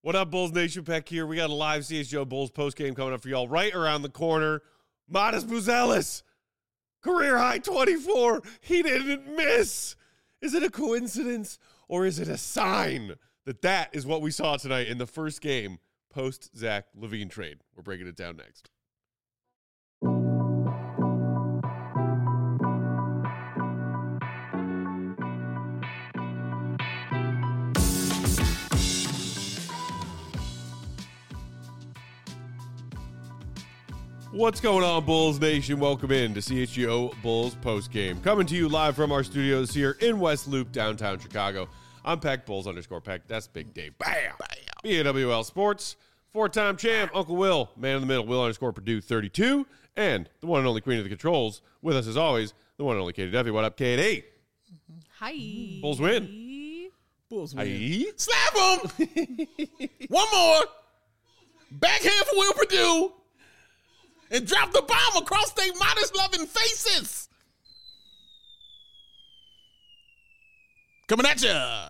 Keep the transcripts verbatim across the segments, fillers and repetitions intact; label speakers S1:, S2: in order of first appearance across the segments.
S1: What up, Bulls Nation? Peck here. We got a live C H G O Bulls postgame coming up for y'all right around the corner. Matas Buzelis, career high twenty-four. He didn't miss. Is it a coincidence or is it a sign that that is what we saw tonight in the first game post Zach LaVine trade? We're breaking it down next. What's going on, Bulls Nation? Welcome in to C H G O Bulls postgame. Coming to you live from our studios here in West Loop, downtown Chicago. I'm Peck, Bulls underscore Peck. That's Big Dave. Bam! Bam. B A W L Sports. Four-time champ, Uncle Will. Man in the middle, Will underscore Purdue thirty-two. And the one and only queen of the controls. With us as always, the one and only Katie Duffy. What up, Katie?
S2: Hi.
S1: Bulls win.
S3: Bulls win.
S1: Hi.
S3: Slap him! One more. Backhand for Will Purdue. And drop the bomb across their modest loving faces. Coming at ya.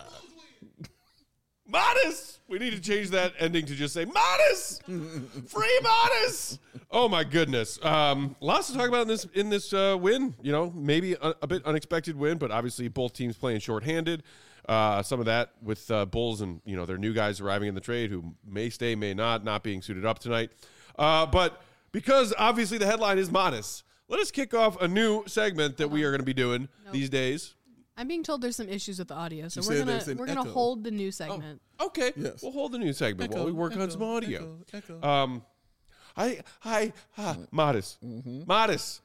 S1: Modest. We need to change that ending to just say Modest. Free Modest. Oh my goodness. Um, lots to talk about in this in this uh, win. You know, maybe a, a bit unexpected win, but obviously both teams playing shorthanded. Uh, some of that with uh, Bulls and you know their new guys arriving in the trade who may stay, may not, not being suited up tonight. Uh, but because obviously the headline is Modest, let us kick off a new segment that we are going to be doing nope. these days.
S2: I'm being told there's some issues with the audio, so
S3: You
S2: we're
S3: said
S2: gonna
S3: there's
S2: we're
S3: an
S2: gonna
S3: echo.
S2: hold the new segment.
S1: Oh, okay,
S3: Yes.
S1: we'll hold the new segment
S3: Echo,
S1: while we work
S3: echo,
S1: on some audio.
S3: echo, echo.
S1: Um, I, I, ah, Modest,
S3: Mm-hmm.
S1: Modest.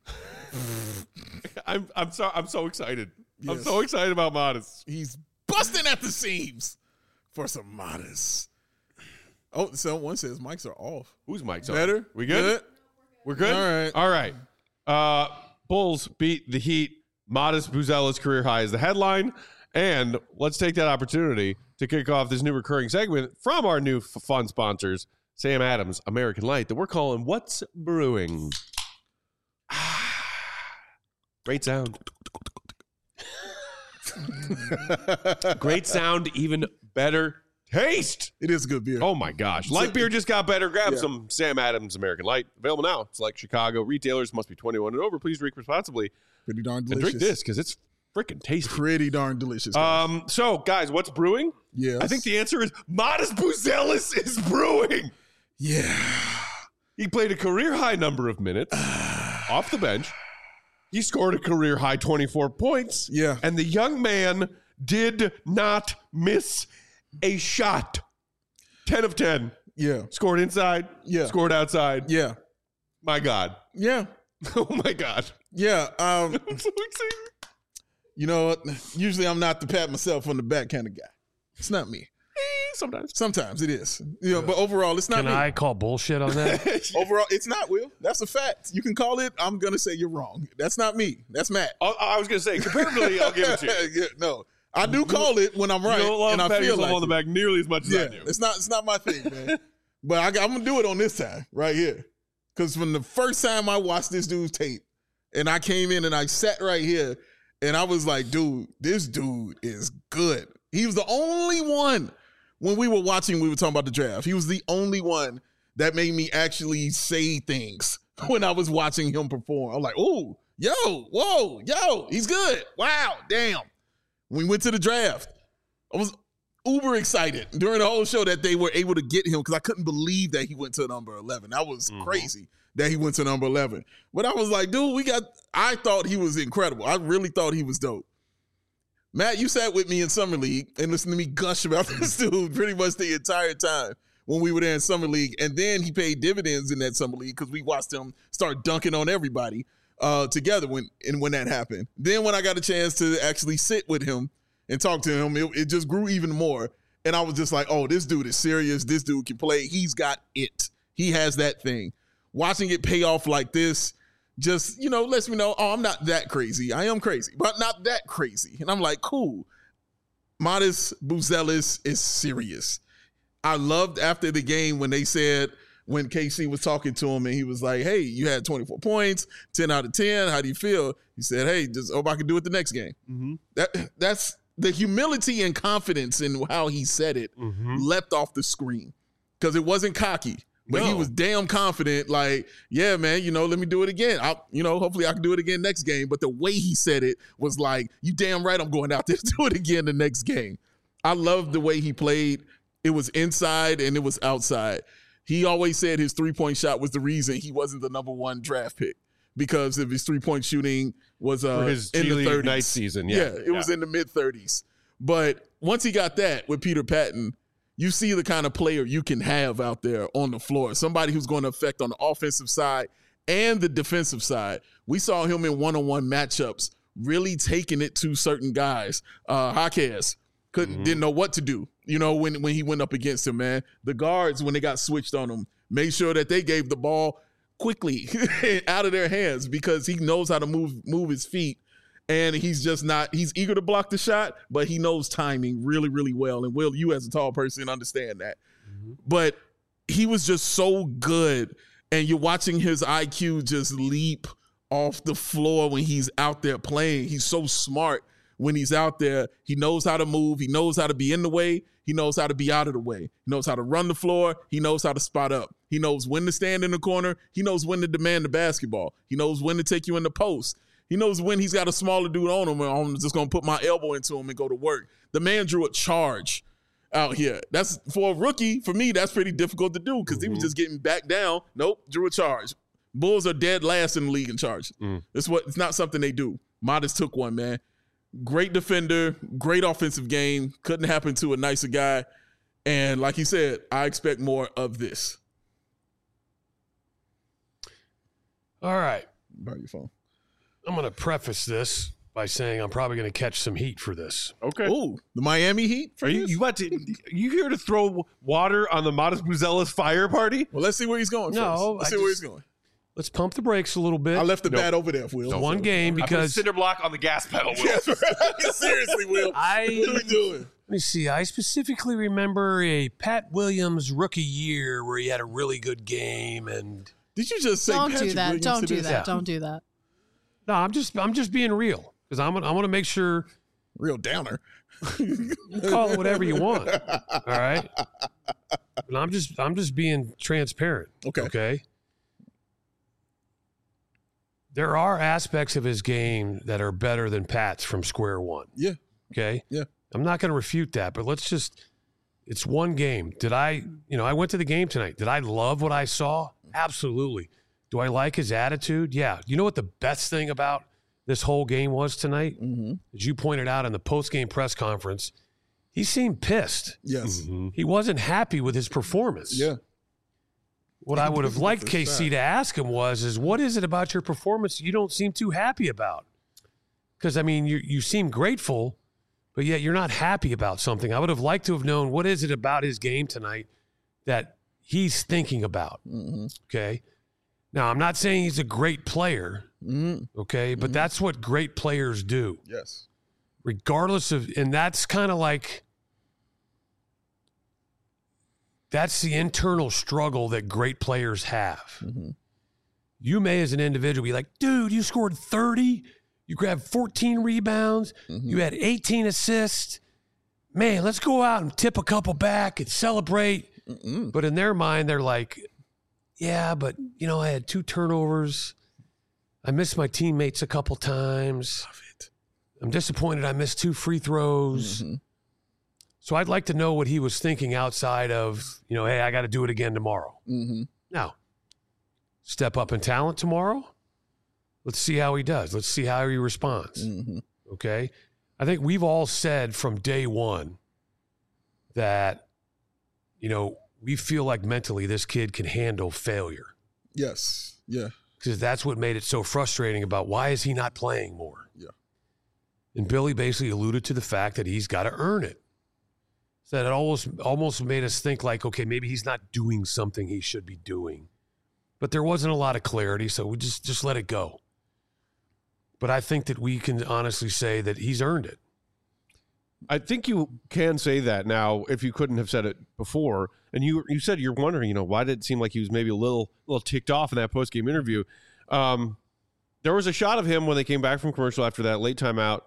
S1: I'm, I'm so, I'm so excited. I'm
S3: Yes.
S1: so excited about Modest.
S3: He's busting at the seams for some Modest. Oh, someone says mics are off.
S1: Whose mic's on?
S3: Better?
S1: We good? We're good.
S3: All right.
S1: All right. Uh, Bulls beat the Heat. Modest Buzelis career high is the headline. And let's take that opportunity to kick off this new recurring segment from our new f- fun sponsors, Sam Adams, American Light, that we're calling What's Brewing. Great sound. Great sound, even better taste.
S3: It is a good beer.
S1: Oh my gosh. Light beer just got better. Grab
S3: Yeah.
S1: some Sam Adams American Light. Available now. Select Chicago retailers. Must be twenty-one and over. Please drink responsibly.
S3: Pretty darn
S1: And
S3: delicious.
S1: drink this because it's freaking tasty.
S3: Pretty darn delicious. guys.
S1: Um, so, guys, what's brewing?
S3: yes.
S1: I think the answer is Modest Buzelis is brewing.
S3: Yeah.
S1: He played a career high number of minutes off the bench. He scored a career high twenty-four points.
S3: Yeah.
S1: And the young man did not miss a shot. ten of ten.
S3: Yeah.
S1: Scored inside.
S3: Yeah.
S1: Scored outside.
S3: Yeah.
S1: My God.
S3: Yeah.
S1: Oh, my God.
S3: Yeah. Um,
S1: I'm so excited.
S3: you know what? Usually I'm not the pat myself on the back kind of guy. It's not me.
S1: Sometimes.
S3: Sometimes it is. You know, but overall, it's not
S4: Can
S3: me.
S4: I call bullshit on that?
S3: Overall, it's not, Will. That's a fact. You can call it. I'm going to say you're wrong. That's not me. That's Matt.
S1: I, I was going to say, comparatively, I'll give it to you.
S3: Yeah, no. I do call it when I'm right.
S1: You don't love
S3: and I
S1: patting
S3: feel
S1: yourself
S3: like
S1: on the
S3: it.
S1: back nearly as much as
S3: Yeah,
S1: I do.
S3: it's not, it's not my thing, man. But I, I'm going to do it on this time, right here. Because from the first time I watched this dude's tape, and I came in and I sat right here, and I was like, dude, this dude is good. He was the only one. When we were watching, we were talking about the draft. He was the only one that made me actually say things when I was watching him perform. I'm like, oh, yo, whoa, yo, he's good. Wow, damn. When we went to the draft, I was uber excited during the whole show that they were able to get him because I couldn't believe that he went to number eleven. That was
S1: Mhm.
S3: crazy that he went to number eleven. But I was like, dude, we got, I thought he was incredible. I really thought he was dope. Matt, you sat with me in Summer League and listened to me gush about this dude pretty much the entire time when we were there in Summer League. And then he paid dividends in that Summer League because we watched him start dunking on everybody uh, together when and when that happened. Then when I got a chance to actually sit with him and talk to him, it, it just grew even more. And I was just like, oh, this dude is serious. This dude can play. He's got it. He has that thing. Watching it pay off like this, just, you know, lets me know, oh, I'm not that crazy. I am crazy, but not that crazy. And I'm like, cool. Modest Buzelis is serious. I loved after the game when they said, when K C was talking to him and he was like, hey, you had twenty-four points, ten out of ten. How do you feel? He said, hey, just hope I can do it the next game.
S1: Mm-hmm.
S3: That That's the humility and confidence in how he said it
S1: Mm-hmm.
S3: leapt off the screen because it wasn't cocky. But he
S1: No.
S3: was damn confident, like, yeah, man, you know, let me do it again. I, you know, hopefully I can do it again next game. But the way he said it was like, you damn right I'm going out there to do it again the next game. I loved the way he played. It was inside and it was outside. He always said his three-point shot was the reason he wasn't the number one draft pick because of his three-point shooting was uh,
S1: For his
S3: in
S1: G
S3: the
S1: League
S3: thirties.
S1: night season, yeah.
S3: it was in the mid-thirties. But once he got that with Peter Patton, you see the kind of player you can have out there on the floor. Somebody who's going to affect on the offensive side and the defensive side. We saw him in one-on-one matchups really taking it to certain guys. Uh, Jaquez couldn't
S1: Mm-hmm.
S3: didn't know what to do, you know, when, when he went up against him, man. The guards, when they got switched on him, made sure that they gave the ball quickly out of their hands because he knows how to move move his feet. And he's just not, he's eager to block the shot, but he knows timing really, really well. And Will, you as a tall person understand that. Mm-hmm. But he was just so good. And you're watching his I Q just leap off the floor when he's out there playing. He's so smart when he's out there. He knows how to move. He knows how to be in the way. He knows how to be out of the way. He knows how to run the floor. He knows how to spot up. He knows when to stand in the corner. He knows when to demand the basketball. He knows when to take you in the post. He knows when he's got a smaller dude on him and I'm just going to put my elbow into him and go to work. The man drew a charge out here. That's for a rookie. For me, that's pretty difficult to do because mm-hmm. he was just getting back down. Nope, drew a charge. Bulls are dead last in the league in charge. Mm. It's what it's not something they do. Modest took one, man. Great defender, great offensive game. Couldn't happen to a nicer guy. And like he said, I expect more of this.
S4: All right.
S3: Borrow your phone.
S4: I'm going to preface this by saying I'm probably going to catch some heat for this.
S1: Okay.
S3: Oh, the Miami Heat?
S1: Are you you about to you here to throw water on the Modest Buzella's fire party?
S3: Well, let's see where he's going.
S4: No,
S3: first. Let's
S4: I
S3: see where
S4: just-
S3: he's going.
S4: Let's pump the brakes a little bit.
S3: I left the
S1: Nope.
S3: bat over there, Will.
S4: It's one game
S1: I put a
S4: because
S1: cinder block on the gas pedal. Will.
S3: Yes, right. Seriously, Will.
S4: I
S3: What are we doing?
S4: Let me see. I specifically remember a Pat Williams rookie year where he had a really good game, and
S3: Did you just say
S2: Don't
S3: Patrick
S2: do that.
S3: Williams
S2: Don't
S3: to
S2: do
S3: this?
S2: that.
S4: Yeah.
S2: Don't do that.
S4: no, I'm just I'm just being real because I'm I want to make sure
S3: Real downer.
S4: you call it whatever you want. All right, and I'm just I'm just being transparent.
S3: Okay.
S4: Okay. There are aspects of his game that are better than Pat's from square one.
S3: Yeah.
S4: Okay.
S3: Yeah.
S4: I'm not going to refute that, but let's just, it's one game. Did I, you know, I went to the game tonight. Did I love what I saw? Absolutely. Do I like his attitude? Yeah. You know what the best thing about this whole game was tonight?
S3: Mm-hmm.
S4: As you pointed out in the post-game press conference, he seemed pissed.
S3: Yes.
S1: Mm-hmm.
S4: He wasn't happy with his performance.
S3: Yeah.
S4: What I would have liked
S3: For
S4: K C
S3: sure.
S4: to ask him was, is what is it about your performance you don't seem too happy about? Because, I mean, you you seem grateful, but yet you're not happy about something. I would have liked to have known what is it about his game tonight that he's thinking about,
S3: Mm-hmm.
S4: okay? Now, I'm not saying he's a great player,
S3: Mm-hmm.
S4: okay? But that's what great players do,
S3: Yes.
S4: regardless of – and that's kind of like – that's the internal struggle that great players have.
S3: Mm-hmm.
S4: You may, as an individual, be like, dude, you scored thirty. You grabbed fourteen rebounds.
S3: Mm-hmm.
S4: You had eighteen assists. Man, let's go out and tip a couple back and celebrate.
S3: Mm-mm.
S4: But in their mind, they're like, yeah, but, you know, I had two turnovers. I missed my teammates a couple times.
S3: Love it.
S4: I'm disappointed I missed two free throws.
S3: Mm-hmm.
S4: So I'd like to know what he was thinking outside of, you know, hey, I got to do it again tomorrow.
S3: Mm-hmm.
S4: Now, step up in talent tomorrow. Let's see how he does. Let's see how he responds.
S3: Mm-hmm.
S4: Okay. I think we've all said from day one that, you know, we feel like mentally this kid can handle failure
S3: Yes. Yeah.
S4: because that's what made it so frustrating about why is he not playing more?
S3: Yeah.
S4: And Billy basically alluded to the fact that he's got to earn it. So that it almost almost made us think like, okay, maybe he's not doing something he should be doing. But there wasn't a lot of clarity, so we just just let it go. But I think that we can honestly say that he's earned it.
S1: I think you can say that now if you couldn't have said it before. And you you said you're wondering, you know, why did it seem like he was maybe a little little ticked off in that post-game interview? Um, there was a shot of him when they came back from commercial after that late timeout,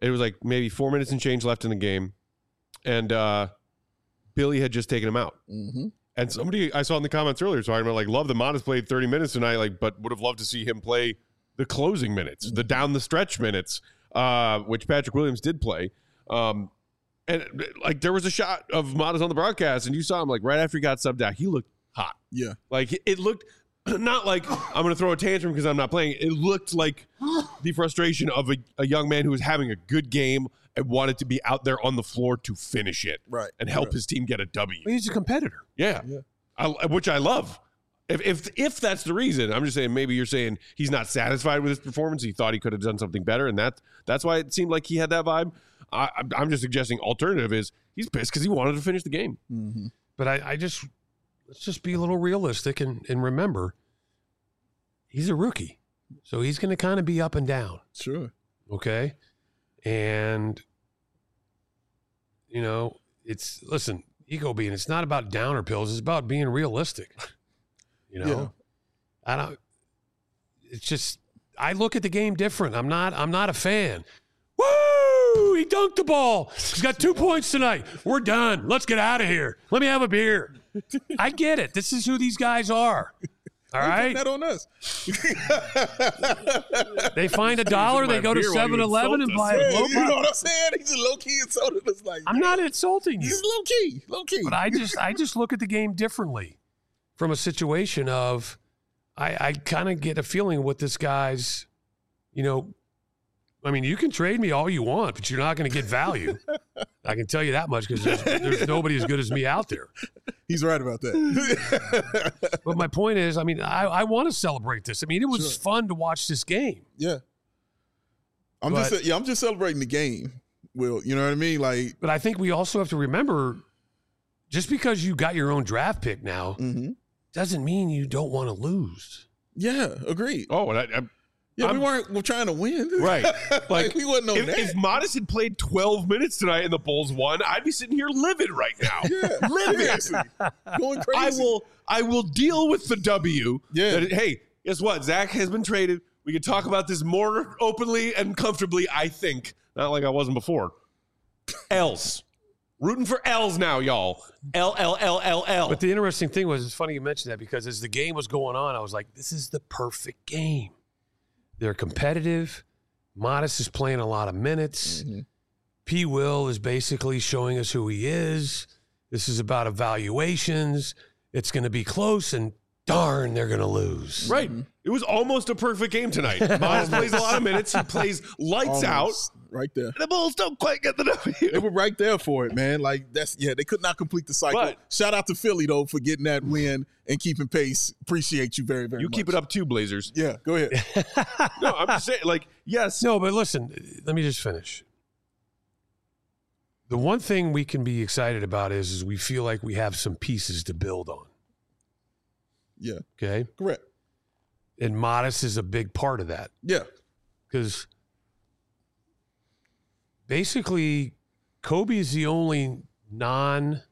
S1: It was like maybe four minutes and change left in the game, and uh, Billy had just taken him out.
S3: Mm-hmm.
S1: And somebody I saw in the comments earlier talking about like, love that Modest played thirty minutes tonight, like, but would have loved to see him play the closing minutes, mm-hmm. the down the stretch minutes, uh, which Patrick Williams did play. Um, and like there was a shot of Modest on the broadcast, and you saw him like right after he got subbed out, he looked hot.
S3: Yeah,
S1: like it looked. Not like I'm going to throw a tantrum because I'm not playing. It looked like the frustration of a, a young man who was having a good game and wanted to be out there on the floor to finish it,
S3: right,
S1: and help
S3: right.
S1: his team get a W.
S4: He's a competitor.
S1: Yeah,
S3: yeah.
S1: I, which I love. If, if if that's the reason, I'm just saying maybe you're saying he's not satisfied with his performance. He thought he could have done something better, and that that's why it seemed like he had that vibe. I, I'm just suggesting alternative is he's pissed because he wanted to finish the game.
S3: Mm-hmm.
S4: But I, I just let's just be a little realistic and, and remember he's a rookie, so he's going to kind of be up and down.
S3: Sure.
S4: Okay, and you know it's listen. Ego being, it's not about downer pills. It's about being realistic. You know, yeah. I don't. It's just I look at the game different. I'm not. I'm not a fan. Woo! He dunked the ball. He's got two points tonight. We're done. Let's get out of here. Let me have a beer. I get it. This is who these guys are. All right.
S3: That on us.
S4: They find a dollar. They go to seven eleven and buy a
S3: yeah,
S4: blow
S3: you know what I'm saying? He's a low key insulting us. Like
S4: I'm not insulting you.
S3: He's low key, low key.
S4: But I just, I just look at the game differently, from a situation of, I, I kind of get a feeling with this guy's, you know, I mean, you can trade me all you want, but you're not going to get value. I can tell you that much because there's, there's nobody as good as me out there.
S3: He's right about that.
S4: But my point is, I mean, I, I want to celebrate this. I mean, it was
S3: Sure.
S4: fun to watch this game.
S3: Yeah. I'm
S4: But-
S3: just yeah, I'm just celebrating the game, Will. You know what I mean? Like,
S4: But I think we also have to remember, just because you got your own draft pick now,
S3: mm-hmm.
S4: doesn't mean you don't want to lose.
S3: yeah, agreed.
S1: Oh, and I, I,
S3: Yeah,
S1: I'm-
S3: we weren't we're trying to win.
S1: Right.
S3: like,
S1: Like,
S3: we wasn't on
S1: if,
S3: that.
S1: if Modest had played twelve minutes tonight and the Bulls won, I'd be sitting here livid right now.
S3: yeah,
S1: livid.
S3: seriously. Going crazy.
S1: I will. I will deal with the W.
S3: Yeah.
S1: That, hey, guess what? Zach has been traded. We can talk about this more openly and comfortably. I think not like I wasn't before. L's. Rooting for L's now, y'all. L L L L L.
S4: But the interesting thing was, it's funny you mentioned that because as the game was going on, I was like, this is the perfect game. They're competitive. Modest is playing a lot of minutes.
S3: Mm-hmm.
S4: P. Will is basically showing us who he is. This is about evaluations. It's going to be close, and darn, they're going to lose.
S1: Right. It was almost a perfect game tonight. Modest plays a lot of minutes. He plays lights
S3: Almost.
S1: out.
S3: Right there.
S1: And the Bulls don't quite get the
S3: They
S1: W.
S3: were right there for it, man. Like that's yeah, they could not complete the cycle.
S1: But-
S3: Shout out to Philly though for getting that win and keeping pace. Appreciate you very, very
S1: You
S3: much.
S1: keep it up too, Blazers.
S3: Yeah, go ahead.
S1: No, I'm just saying, like, yes.
S4: No, but listen, let me just finish. The one thing we can be excited about is, is we feel like we have some pieces to build on.
S3: Yeah,
S4: Okay?
S3: correct.
S4: And Modest is a big part of that.
S3: Yeah.
S4: Because basically, Kobe is the only non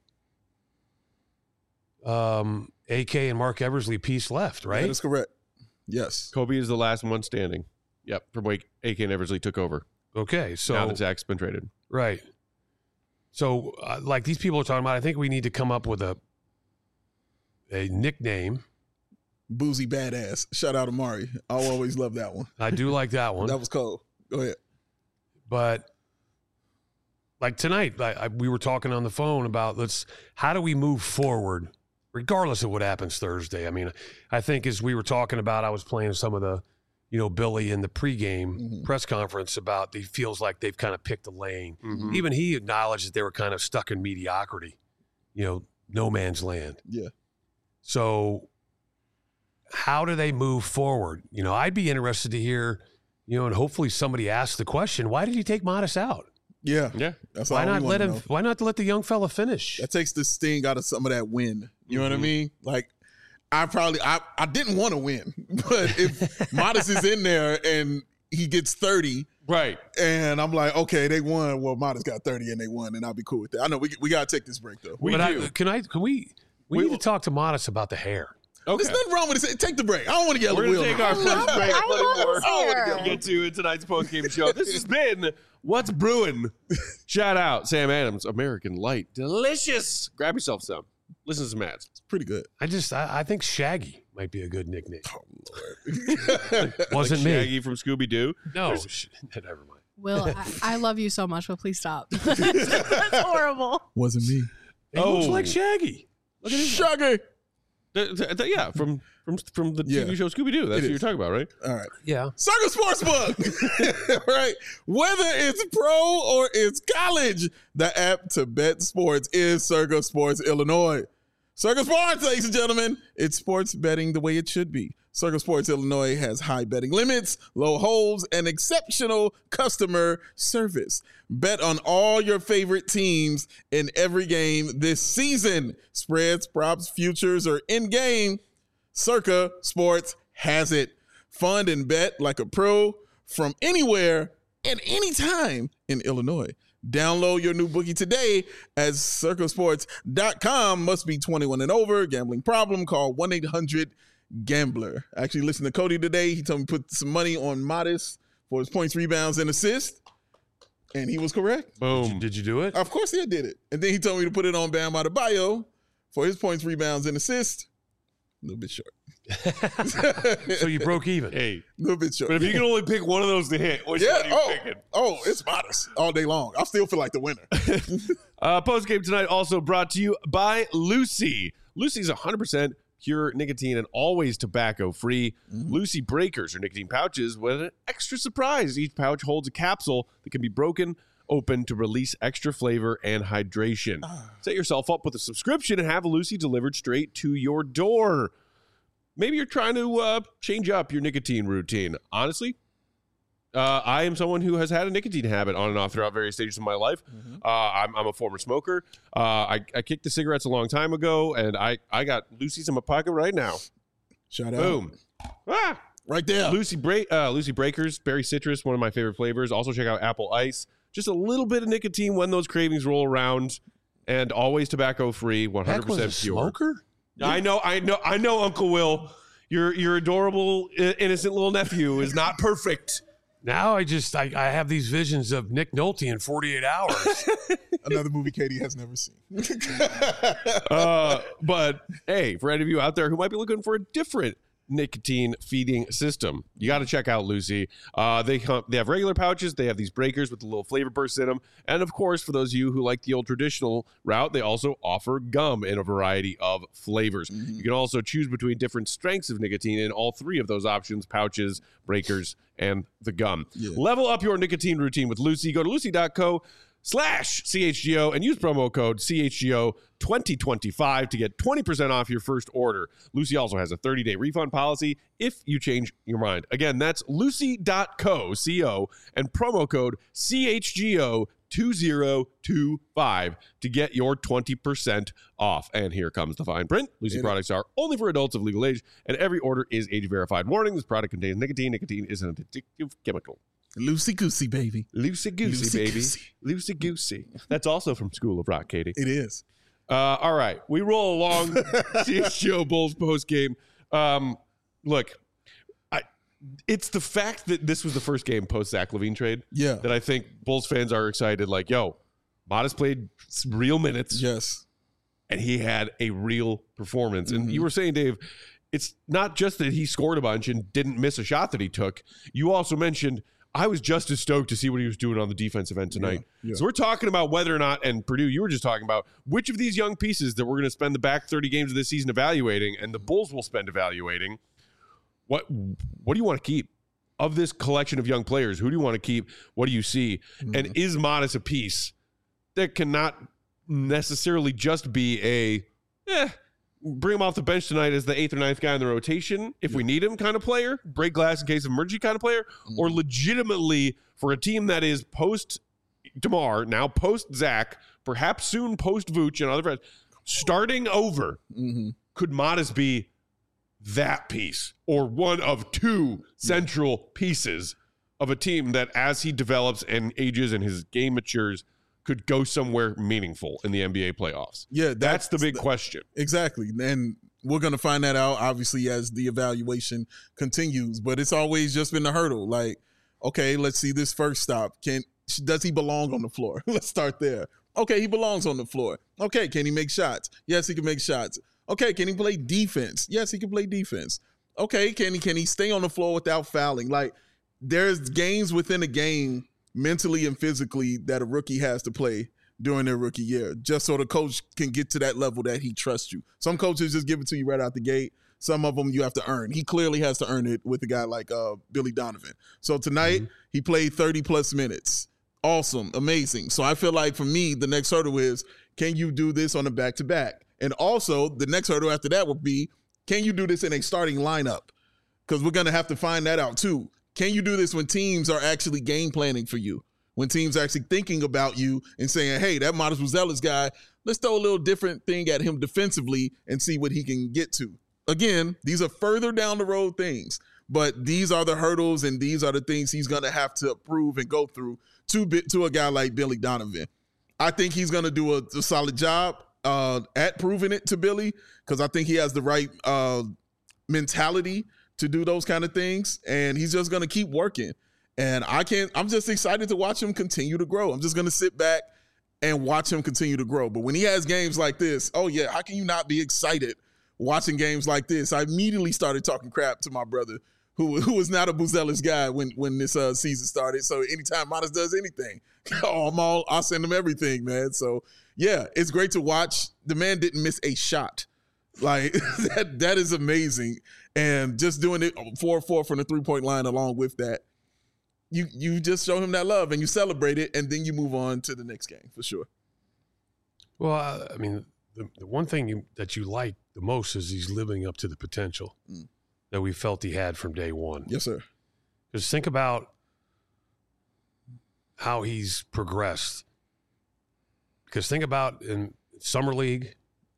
S4: um, A K and Mark Eversley piece left, right?
S3: That is correct. Yes.
S1: Kobe is the last one standing. Yep, from Wake, A K and Eversley took over.
S4: Okay, so
S1: now that Zach's been traded.
S4: right. So, uh, like these people are talking about, I think we need to come up with a a nickname.
S3: Boozy badass. Shout out to Mari. I'll always love that one.
S4: I do like that one,
S3: That was cold. Go ahead.
S4: but like tonight, I, I, we were talking on the phone about let's how do we move forward, regardless of what happens Thursday. I mean, I think as we were talking about, I was playing some of the, you know, Billy in the pregame
S3: Mhm.
S4: press conference about he feels like they've kind of picked a lane.
S1: Mhm.
S4: Even he acknowledged that they were kind of stuck in mediocrity, you know, no man's land.
S3: Yeah.
S4: So how do they move forward? You know, I'd be interested to hear, you know, and hopefully somebody asks the question, why did you take Modest out?
S3: Yeah.
S1: Yeah.
S3: That's
S4: Why
S3: all we
S4: not
S3: wanna
S4: let him,
S3: know.
S4: why not let the young fella finish?
S3: That takes the sting out of some of that win. You know what I
S4: Mhm.
S3: mean? Like, I probably I, I didn't want to win, but if Modest is in there and he gets thirty,
S1: Right.
S3: and I'm like, okay, they won. Well, Modest got thirty and they won, and I'll be cool with that. I know we we gotta take this break though.
S1: We
S4: But
S1: do.
S4: I, can I, can we, we,
S1: We
S4: need
S1: will-
S4: to talk to Modest about the hair.
S1: Okay.
S3: There's nothing wrong with it. Take the break. I don't want to get
S1: We're
S3: a
S1: going to
S3: wheel.
S1: take our first break.
S5: I love this here.
S1: We'll get to in tonight's post-game show. This has been What's Brewing. Shout out Sam Adams, American Light. Delicious. Grab yourself some. Listen to some ads.
S3: It's pretty good.
S4: I just, I, I think Shaggy might be a good nickname.
S3: Oh,
S4: Wasn't
S1: like
S4: me.
S1: Shaggy from Scooby-Doo.
S4: No, sh- never mind.
S2: Will, I, I love you so much, but please stop. That's horrible.
S3: Wasn't me.
S4: It looks
S1: Oh.
S4: like Shaggy.
S3: Look at this. Shaggy.
S1: Th- th- th- yeah, from from from the
S3: Yeah.
S1: T V show Scooby-Doo. That's
S3: It
S1: what you're
S3: is.
S1: talking about, right?
S3: All right.
S4: Yeah.
S3: Circle Sportsbook, right? Whether it's pro or it's college, the app to bet sports is Circle Sports Illinois. Circle Sports, ladies and gentlemen, it's sports betting the way it should be. Circle Sports Illinois has high betting limits, low holds, and exceptional customer service. Bet on all your favorite teams in every game this season. Spreads, props, futures, or in-game, Circa Sports has it. Fund and bet like a pro from anywhere and anytime in Illinois. Download your new bookie today at circle sports dot com. Must be twenty-one and over. Gambling problem? Call one eight hundred gambler. I actually listened to Cody today. He told me to put some money on Modest for his points, rebounds, and assists. And he was correct.
S1: Boom.
S4: Did you do it?
S3: Of course he did it. And then he told me to put it on Bam Adebayo for his points, rebounds, and assists. A little bit short.
S4: So you broke even.
S1: Hey,
S3: A little bit short.
S1: but if you can only pick one of those to hit, which
S3: yeah,
S1: one are you
S3: oh,
S1: picking?
S3: oh, it's Modest all day long. I still feel like the winner.
S1: Uh, Post game tonight also brought to you by Lucy. Lucy's one hundred percent pure nicotine and always tobacco free.
S3: Mm-hmm.
S1: Lucy breakers are nicotine pouches with an extra surprise. Each pouch holds a capsule that can be broken open to release extra flavor and hydration.
S3: Ah.
S1: Set yourself up with a subscription and have Lucy delivered straight to your door. Maybe you're trying to uh, change up your nicotine routine. Honestly, Uh, I am someone who has had a nicotine habit on and off throughout various stages of my life.
S3: Mm-hmm.
S1: Uh, I'm, I'm a former smoker. Uh, I, I kicked the cigarettes a long time ago, and I, I got Lucy's in my pocket right now.
S3: Shout out.
S1: Boom. Ah!
S3: Right there.
S1: Lucy, Bra- uh, Lucy Breakers, berry citrus, one of my favorite flavors. Also check out apple ice. Just a little bit of nicotine when those cravings roll around, and always tobacco free, one hundred
S4: Heck, was
S1: percent
S4: a
S1: pure.
S4: smoker?
S1: I know, I know, I know, Uncle Will. Your your adorable, i- innocent little nephew is not perfect.
S4: Now I just I, I have these visions of Nick Nolte in forty-eight hours.
S3: Another movie Katie has never seen.
S1: Uh, but hey, for any of you out there who might be looking for a different nicotine feeding system, you got to check out Lucy. Uh, they come, they have regular pouches. They have these breakers with the little flavor bursts in them, and of course, for those of you who like the old traditional route, they also offer gum in a variety of flavors.
S3: Mm-hmm.
S1: You can also choose between different strengths of nicotine in all three of those options: pouches, breakers, and the gum.
S3: Yeah.
S1: Level up your nicotine routine with Lucy. Go to lucy dot co slash C H G O and use promo code C H G O twenty twenty-five to get twenty percent off your first order. Lucy also has a thirty-day refund policy if you change your mind. Again, that's lucy dot co, C O, and promo code C H G O two zero two five to get your twenty percent off. And here comes the fine print. Lucy
S3: It
S1: products are only for adults of legal age, and every order is age verified. Warning, this product contains nicotine. Nicotine is an addictive chemical.
S3: Loosey goosey, baby.
S1: Loosey goosey, baby.
S3: Loosey-goosey.
S1: Loosey goosey. That's also from School of Rock, Katie.
S3: It is.
S1: Uh, all right. We roll along. C H G O Bulls post game. Um, look, I, it's the fact that this was the first game post Zach LaVine trade
S3: Yeah.
S1: that I think Bulls fans are excited. Like, yo, Modest played some real minutes
S3: Yes.
S1: and he had a real performance. And
S3: Mhm.
S1: you were saying, Dave, it's not just that he scored a bunch and didn't miss a shot that he took. You also mentioned, I was just as stoked to see what he was doing on the defensive end tonight.
S3: Yeah, yeah.
S1: So we're talking about whether or not, and Purdue, you were just talking about which of these young pieces that we're going to spend the back thirty games of this season evaluating, and the Bulls will spend evaluating. What what do you want to keep of this collection of young players? Who do you want to keep? What do you see?
S3: Mm-hmm.
S1: And is Modest a piece that cannot necessarily just be a, eh, bring him off the bench tonight as the eighth or ninth guy in the rotation if we need him kind of player, break glass in case of emergency kind of player,
S3: Mm-hmm.
S1: or legitimately for a team that is post DeMar, now post Zach, perhaps soon post Vooch and other friends, starting over,
S3: Mm-hmm.
S1: could Modest be that piece or one of two central pieces of a team that as he develops and ages and his game matures could go somewhere meaningful in the N B A playoffs?
S3: Yeah.
S1: That's the big
S3: the-
S1: question.
S3: Exactly. And we're going to find that out, obviously, as the evaluation continues. But it's always just been a hurdle. Like, okay, let's see this first stop. Can Does he belong on the floor? Let's start there. Okay, he belongs on the floor. Okay, can he make shots? Yes, he can make shots. Okay, can he play defense? Yes, he can play defense. Okay, can he can he stay on the floor without fouling? Like, there's games within a game, mentally and physically, that a rookie has to play during their rookie year, just so the coach can get to that level that he trusts you. Some coaches just give it to you right out the gate. Some of them you have to earn. He clearly has to earn it with a guy like uh, Billy Donovan. So tonight, mm-hmm. he played thirty-plus minutes. Awesome. Amazing. So I feel like for me, the next hurdle is, can you do this on a back-to-back? And also, the next hurdle after that would be, can you do this in a starting lineup? Because we're going to have to find that out too. Can you do this when teams are actually game planning for you? When teams are actually thinking about you and saying, hey, that Modest Buzelis guy, let's throw a little different thing at him defensively and see what he can get to. Again, these are further down the road things, but these are the hurdles and these are the things he's going to have to prove and go through to, to a guy like Billy Donovan. I think he's going to do a, a solid job uh, at proving it to Billy, because I think he has the right uh, mentality to do those kind of things, and he's just going to keep working. And I can't, I'm just excited to watch him continue to grow. I'm just going to sit back and watch him continue to grow. But when he has games like this, oh yeah, how can you not be excited watching games like this? I immediately started talking crap to my brother, who who was not a Buzelis guy when when this uh, season started. So anytime Modest does anything, oh, I'm all, I'll send him everything, man. So yeah, it's great to watch. The man didn't miss a shot. Like that, that is amazing. And just doing it four four from the three-point line along with that, you you just show him that love and you celebrate it, and then you move on to the next game for sure.
S4: Well, uh, I mean, the, the one thing you, that you like the most is he's living up to the potential mm. that we felt he had from day one.
S3: Yes, sir.
S4: Just think about how he's progressed. Because think about in Summer League,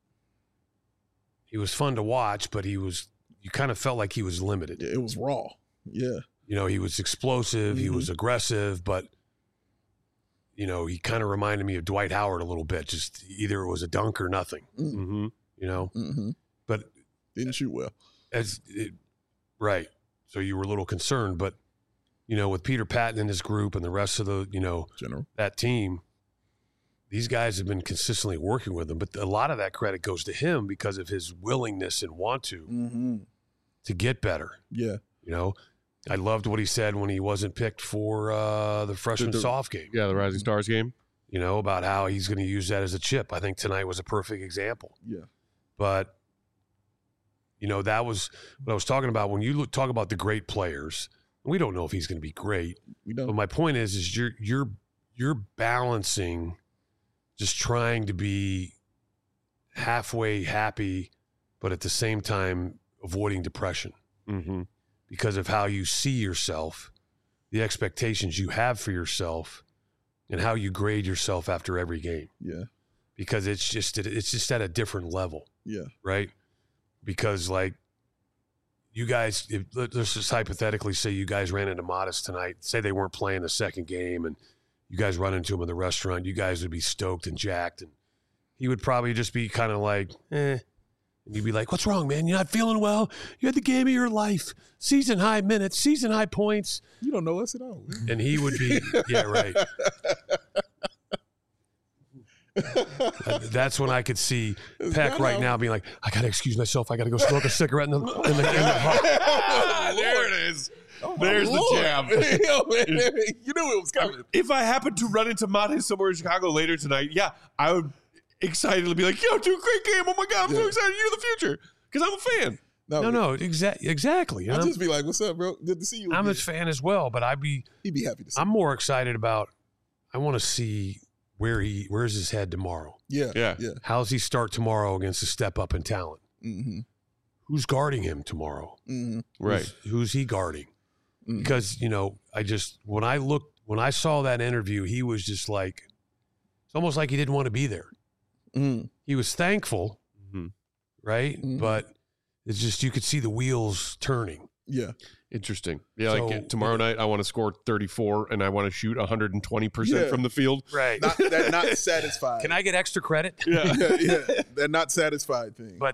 S4: he was fun to watch, but he was you kind of felt like he was limited.
S3: It was raw. Yeah.
S4: You know, he was explosive, mm-hmm. he was aggressive, but, you know, he kind of reminded me of Dwight Howard a little bit. Just either it was a dunk or nothing, mm-hmm. you know.
S3: Mm-hmm.
S4: But
S3: didn't shoot well.
S4: As it, right. So you were a little concerned, but, you know, with Peter Patton and his group and the rest of the, you know,
S3: General.
S4: that team, these guys have been consistently working with him. But a lot of that credit goes to him because of his willingness and want to
S3: mm-hmm.
S4: to get better.
S3: Yeah.
S4: You know, I loved what he said when he wasn't picked for uh, the freshman
S1: the, the,
S4: soft game.
S1: Yeah, the Rising Stars game.
S4: You know, about how he's going to use that as a chip. I think tonight was a perfect example.
S3: Yeah.
S4: But, you know, that was what I was talking about. When you look, talk about the great players, we don't know if he's going to be great.
S3: We don't.
S4: But my point is, is you're you're you're balancing just trying to be halfway happy, but at the same time avoiding depression.
S1: Mm-hmm.
S4: Because of how you see yourself, the expectations you have for yourself, and how you grade yourself after every game.
S3: Yeah.
S4: Because it's just it's just at a different level.
S3: Yeah.
S4: Right? Because, like, you guys, if, let's just hypothetically say you guys ran into Modest tonight. Say they weren't playing the second game, and you guys run into him in the restaurant. You guys would be stoked and jacked, and he would probably just be kind of like, eh. And you'd be like, what's wrong, man? You're not feeling well? You had the game of your life. Season high minutes, season high points.
S3: You don't know us at all.
S4: And he would be, yeah, right. That's when I could see Peck right now being like, I got to excuse myself. I got to go smoke a cigarette in the, in the, in the
S1: There it is. Oh, There's Lord. the jam.
S3: Yo, man, you knew it was coming.
S1: If I happen to run into Monte somewhere in Chicago later tonight, yeah, I would excitedly be like, yo, dude, great game. Oh my God, I'm yeah. so excited. You're the future. Because I'm a fan.
S4: No, no, no exa- exactly.
S3: I'd just be like, what's up, bro? Good to see you.
S4: I'm
S3: again.
S4: a fan as well, but I'd be
S3: He'd be happy to see
S4: I'm
S3: you.
S4: more excited about, I want to see where he, where's his head tomorrow.
S3: Yeah,
S1: yeah.
S3: yeah.
S4: How's he start tomorrow against a step up in talent?
S3: Mm-hmm.
S4: Who's guarding him tomorrow?
S3: Mm-hmm.
S1: Right.
S4: Who's, who's he guarding?
S3: Mm-hmm.
S4: Because, you know, I just, when I looked, when I saw that interview, he was just like, it's almost like he didn't want to be there.
S3: Mm-hmm.
S4: He was thankful,
S1: mm-hmm.
S4: right?
S3: Mm-hmm.
S4: But it's just, you could see the wheels turning.
S3: Yeah.
S1: Interesting. Yeah,
S4: so,
S1: like tomorrow night, I want to score thirty-four and I want to shoot one hundred twenty percent
S3: yeah.
S1: from the field.
S4: Right.
S3: Not, they're not satisfied.
S4: Can I get extra credit?
S1: Yeah.
S3: yeah, yeah. They're not satisfied thing.
S4: But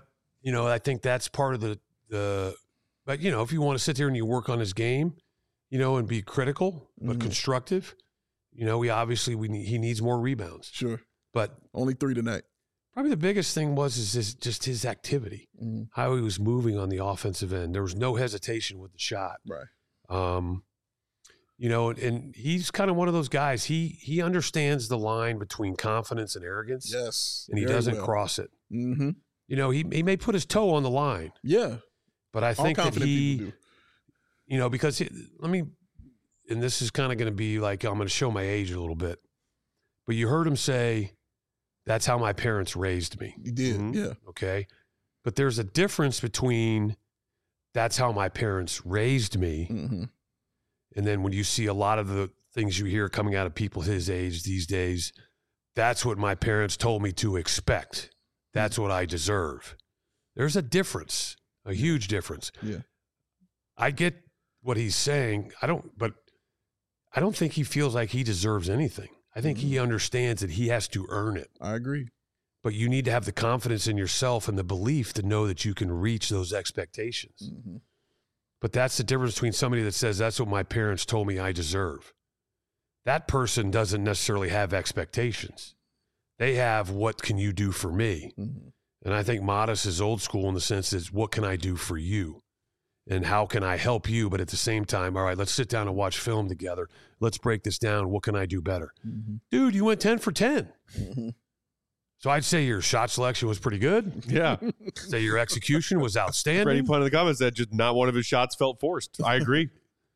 S4: you know, I think that's part of the the. But you know, if you want to sit there and you work on his game, you know, and be critical but
S3: Mhm.
S4: constructive, you know, we obviously we need, he needs more rebounds.
S3: Sure.
S4: But
S3: Only three tonight.
S4: probably the biggest thing was is his, just his activity,
S3: Mm-hmm.
S4: how he was moving on the offensive end. There was no hesitation with the shot.
S3: Right.
S4: Um, you know, and, and he's kind of one of those guys. He he understands the line between confidence and arrogance,
S3: Yes.
S4: and he
S3: very
S4: doesn't
S3: well.
S4: cross it.
S3: Mm-hmm.
S4: You know, he he may put his toe on the line,
S3: Yeah.
S4: but I
S3: All
S4: think that
S3: confident
S4: he,
S3: people do.
S4: you know, because he, let me, and this is kind of going to be like I'm going to show my age a little bit, but you heard him say, "That's how my parents raised me."
S3: You did.
S1: Mhm.
S3: Yeah.
S4: Okay, but there's a difference between "That's how my parents raised me,"
S3: Mm-hmm.
S4: and then when you see a lot of the things you hear coming out of people his age these days, "That's what my parents told me to expect. That's what I deserve." There's a difference, a huge difference.
S3: Yeah.
S4: I get what he's saying. I don't, but I don't think he feels like he deserves anything. I think he understands that he has to earn it.
S3: I agree.
S4: But you need to have the confidence in yourself and the belief to know that you can reach those expectations.
S3: Mm-hmm.
S4: But that's the difference between somebody that says, "That's what my parents told me I deserve." That person doesn't necessarily have expectations. They have, "What can you do for me?"
S3: Mm-hmm.
S4: And I think Modest is old school in the sense that, what can I do for you? And how can I help you? But at the same time, all right, let's sit down and watch film together. Let's break this down. What can I do better?
S3: Mm-hmm.
S4: Dude, you went ten for ten.
S3: Mm-hmm.
S4: So I'd say your shot selection was pretty good.
S1: Yeah.
S4: Say your execution was outstanding.
S1: Freddie put in the comments that just not one of his shots felt forced. I agree.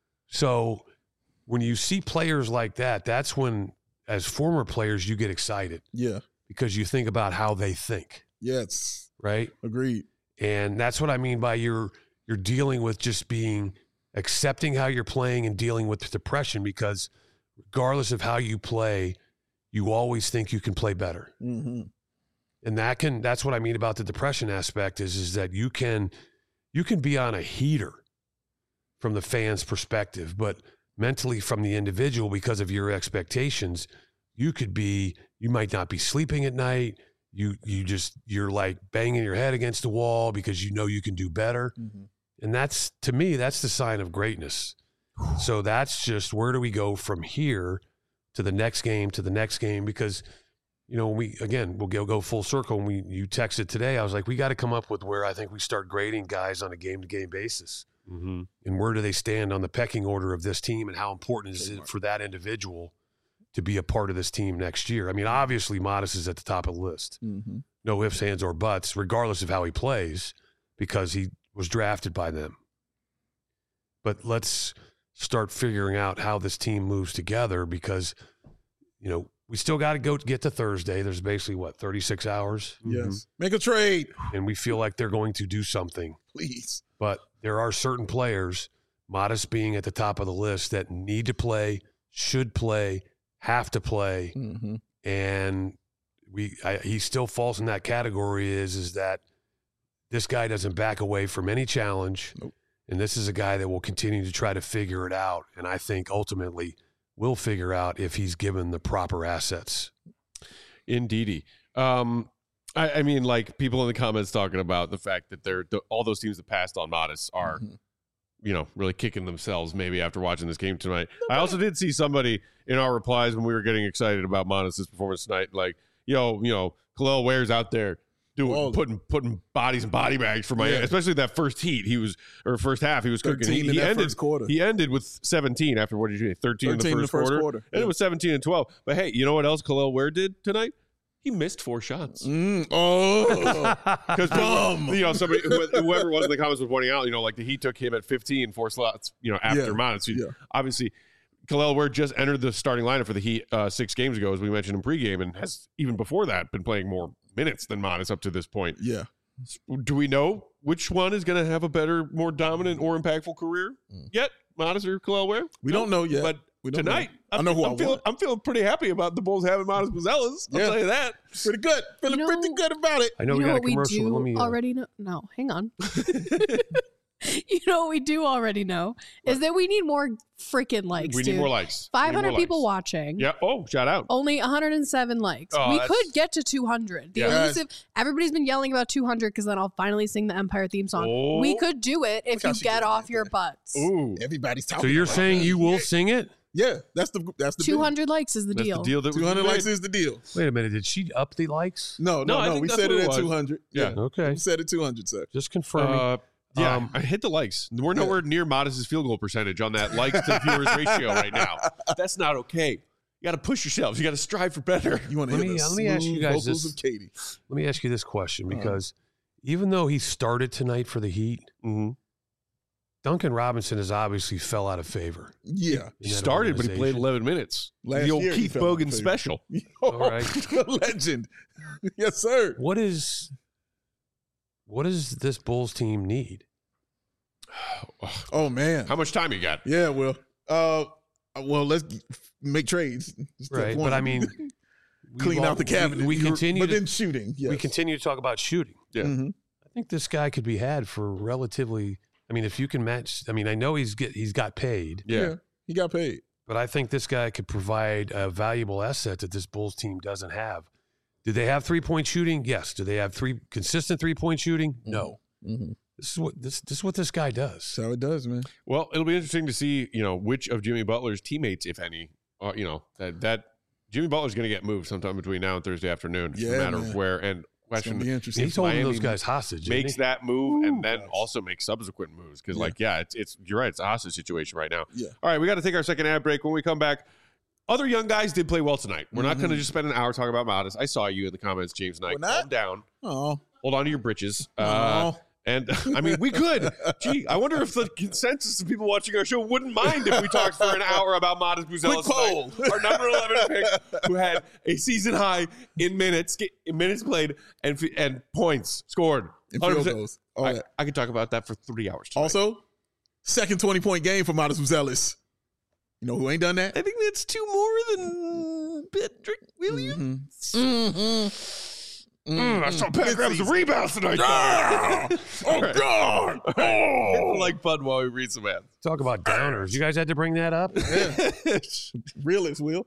S4: So when you see players like that, that's when, as former players, you get excited
S3: Yeah.
S4: because you think about how they think,
S3: Yes.
S4: right?
S3: Agreed.
S4: And that's what I mean by you're you're dealing with just being accepting how you're playing and dealing with depression, because regardless of how you play, you always think you can play better.
S3: Mm-hmm.
S4: And that can that's what I mean about the depression aspect is is that you can you can be on a heater from the fan's perspective, but mentally from the individual, because of your expectations, you could be you might not be sleeping at night. You you just you're like banging your head against the wall because you know you can do better.
S3: Mm-hmm.
S4: And that's, to me, that's the sign of greatness. So that's just, where do we go from here to the next game, to the next game? Because, you know, we, again, we'll go, go full circle. When we, you texted today, I was like, we got to come up with where I think we start grading guys on a game-to-game basis.
S1: Mm-hmm.
S4: And where do they stand on the pecking order of this team, and how important is it for that individual to be a part of this team next year? I mean, obviously, Modest is at the top of the list.
S3: Mm-hmm.
S4: No ifs, ands, or buts, regardless of how he plays, because he was drafted by them. But let's start figuring out how this team moves together, because, you know, we still got to go get to Thursday. There's basically, what, thirty-six hours?
S3: Yes. Make a trade,
S4: And we feel like they're going to do something.
S3: please.
S4: But there are certain players, Modest being at the top of the list, that need to play, should play, have to play.
S3: Mm-hmm.
S4: And we I, he still falls in that category, is, is that this guy doesn't back away from any challenge.
S3: Nope.
S4: And this is a guy that will continue to try to figure it out. And I think ultimately will figure out if he's given the proper assets.
S1: Indeedy. Um, I, I mean, like, people in the comments talking about the fact that they're the, all those teams that passed on Modest are,
S3: Mhm.
S1: you know, really kicking themselves maybe after watching this game tonight. I also did see somebody in our replies when we were getting excited about Modest's performance tonight, like, yo, you know, Khalil Ware's out there doing
S3: Well,
S1: putting putting bodies in body bags for Miami,
S3: Yeah.
S1: especially that first heat. He was or first half he was cooking. He,
S3: thirteen in
S1: he
S3: that
S1: ended
S3: first quarter.
S1: he ended with seventeen after what did you say? thirteen, in the
S3: thirteen
S1: first, quarter. And
S3: Yeah.
S1: it was seventeen and twelve. But hey, you know what else Khalil Ware did tonight? He missed four shots.
S3: Mm, oh,
S1: Because
S3: Dumb.
S1: you know, somebody whoever was in the comments was pointing out, you know, like the Heat took him at fifteen, four slots, you know, after
S3: Yeah,
S1: Modest. So
S3: yeah.
S1: obviously, Khalil Ware just entered the starting lineup for the Heat uh, six games ago, as we mentioned in pregame, and has even before that been playing more minutes than Modest up to this point.
S3: yeah.
S1: Do we know which one is going to have a better, more dominant, or impactful career
S3: Mm.
S1: yet? Modest or Khalil Ware?
S3: We
S1: No,
S3: don't know yet.
S1: But
S3: We don't
S1: tonight,
S3: know. I
S1: I'm,
S3: know who
S1: I'm
S3: I
S1: feeling,
S3: want.
S1: I'm feeling pretty happy about the Bulls having Modest Buzelis. I'll
S3: Yeah.
S1: tell you that.
S3: Pretty good. Feeling
S2: You know-
S3: pretty good about it.
S4: I know
S2: you
S4: we
S2: know
S4: got a
S2: what we
S4: commercial.
S2: do
S4: Let me, uh,
S2: already know? No, hang on. You know what we do already know is that we need more freaking likes.
S1: We
S2: dude.
S1: need more likes. We need
S2: five hundred
S1: more
S2: people
S1: likes.
S2: watching.
S1: Yeah. Oh, shout out.
S2: Only one hundred seven likes.
S1: Oh,
S2: we
S1: that's-
S2: could get to two hundred. The
S1: Yeah.
S2: elusive. Everybody's been yelling about two hundred because then I'll finally sing the Empire theme song.
S1: Oh.
S2: We could do it if
S3: Look how
S2: you
S3: she
S2: get
S3: just
S2: off
S3: did
S2: your
S3: that.
S2: butts.
S1: Ooh.
S3: Everybody's talking.
S4: So you're
S3: about
S4: saying
S3: that.
S4: you will sing it?
S3: Yeah, that's the that's the
S2: two hundred likes is the
S1: That's
S2: deal.
S1: the deal that
S3: two hundred
S1: we
S3: likes
S1: made.
S3: is the deal.
S4: Wait a minute. Did she up the likes?
S3: No,
S1: No,
S3: no,
S1: I
S3: no.
S1: think
S3: We
S1: that's
S3: said
S1: what
S3: it
S1: it
S3: at
S1: was.
S3: two hundred.
S1: Yeah.
S4: Okay.
S3: We said it two hundred, sir.
S4: Just confirming.
S1: Uh, yeah,
S4: Um,
S1: I hit the likes. We're nowhere near Modest's field goal percentage on that likes to viewers ratio right now. That's not okay. You got to push yourselves. You got to strive for better.
S3: You want to
S4: Let
S3: hear
S4: me-
S3: the
S4: let me ask you
S3: smooth
S4: guys
S3: vocals
S4: this.
S3: of Katie?
S4: Let me ask you this question
S3: Uh-huh.
S4: because even though he started tonight for the Heat,
S1: Mm-hmm.
S4: Duncan Robinson has obviously fell out of favor.
S3: Yeah.
S1: He
S4: in that
S1: started, but he played
S4: organization.
S1: eleven minutes.
S3: Last
S1: the old
S3: year he
S1: Keith
S3: fell out of
S1: Bogan
S3: favor.
S1: special.
S3: All
S4: right.
S3: Legend. Yes, sir.
S4: What is what does this Bulls team need?
S3: Oh man.
S1: How much time you got?
S3: Yeah. Well. Uh. Well, let's make trades. Step
S4: Right,
S3: one.
S4: but I mean,
S3: clean
S4: we've
S3: out the
S4: all-
S3: cabinet.
S4: We, we continue
S3: but
S4: to
S3: then shooting. Yes.
S4: we continue to talk about shooting.
S1: Yeah.
S3: Mhm.
S4: I think this guy could be had for relatively. I mean, if you can match. I mean, I know he's get he's got paid,
S1: Yeah.
S3: He got paid.
S4: but I think this guy could provide a valuable asset that this Bulls team doesn't have. Do they have three point shooting? Yes. Do they have three consistent three point shooting? No.
S3: Mm-hmm.
S4: This is what this this is what this guy does.
S3: That's how it does, man.
S1: Well, it'll be interesting to see, you know, which of Jimmy Butler's teammates, if any, uh, you know, that that Jimmy Butler's going to get moved sometime between now and Thursday afternoon. It's
S3: Yeah,
S1: a matter
S3: man.
S1: of where. And
S3: It's
S1: question
S3: gonna be interesting.
S4: He's holding
S1: Miami
S4: those guys hostage. isn't
S1: makes
S4: he?
S1: that move and then
S3: Yes.
S1: also makes subsequent moves because,
S3: Yeah.
S1: like, yeah, it's it's you're right, it's a hostage situation right now.
S3: Yeah.
S1: All right, we got to take our second ad break. When we come back, other young guys did play well tonight. We're not going to
S3: Mhm.
S1: just spend an hour talking about Modest. I saw you in the comments, James Knight.
S3: We're not?
S1: Calm down.
S3: Oh.
S1: Hold on to your britches. Uh,
S3: Oh.
S1: and I mean, we could. Gee, I wonder if the consensus of people watching our show wouldn't mind if we talked for an hour about Modest Buzelis,
S3: Quick poll.
S1: our number eleven pick, who had a season high in minutes, in minutes played, and f- and points scored.
S3: And
S1: one hundred
S3: field
S1: percent.
S3: goals. All
S1: I,
S3: that.
S1: I could talk about that for three hours. tonight.
S3: Also, second twenty-point game for Modest Buzelis. You know who ain't done that?
S1: I think that's two more than Patrick Williams.
S3: Mm-hmm.
S1: Mm, I saw Pat grab some rebounds tonight.
S3: Ah! Oh,
S1: Right.
S3: God!
S1: Hit the
S3: Oh!
S1: like button while we read some ads.
S4: Talk about downers. You guys had to bring that up.
S3: Realist, Will.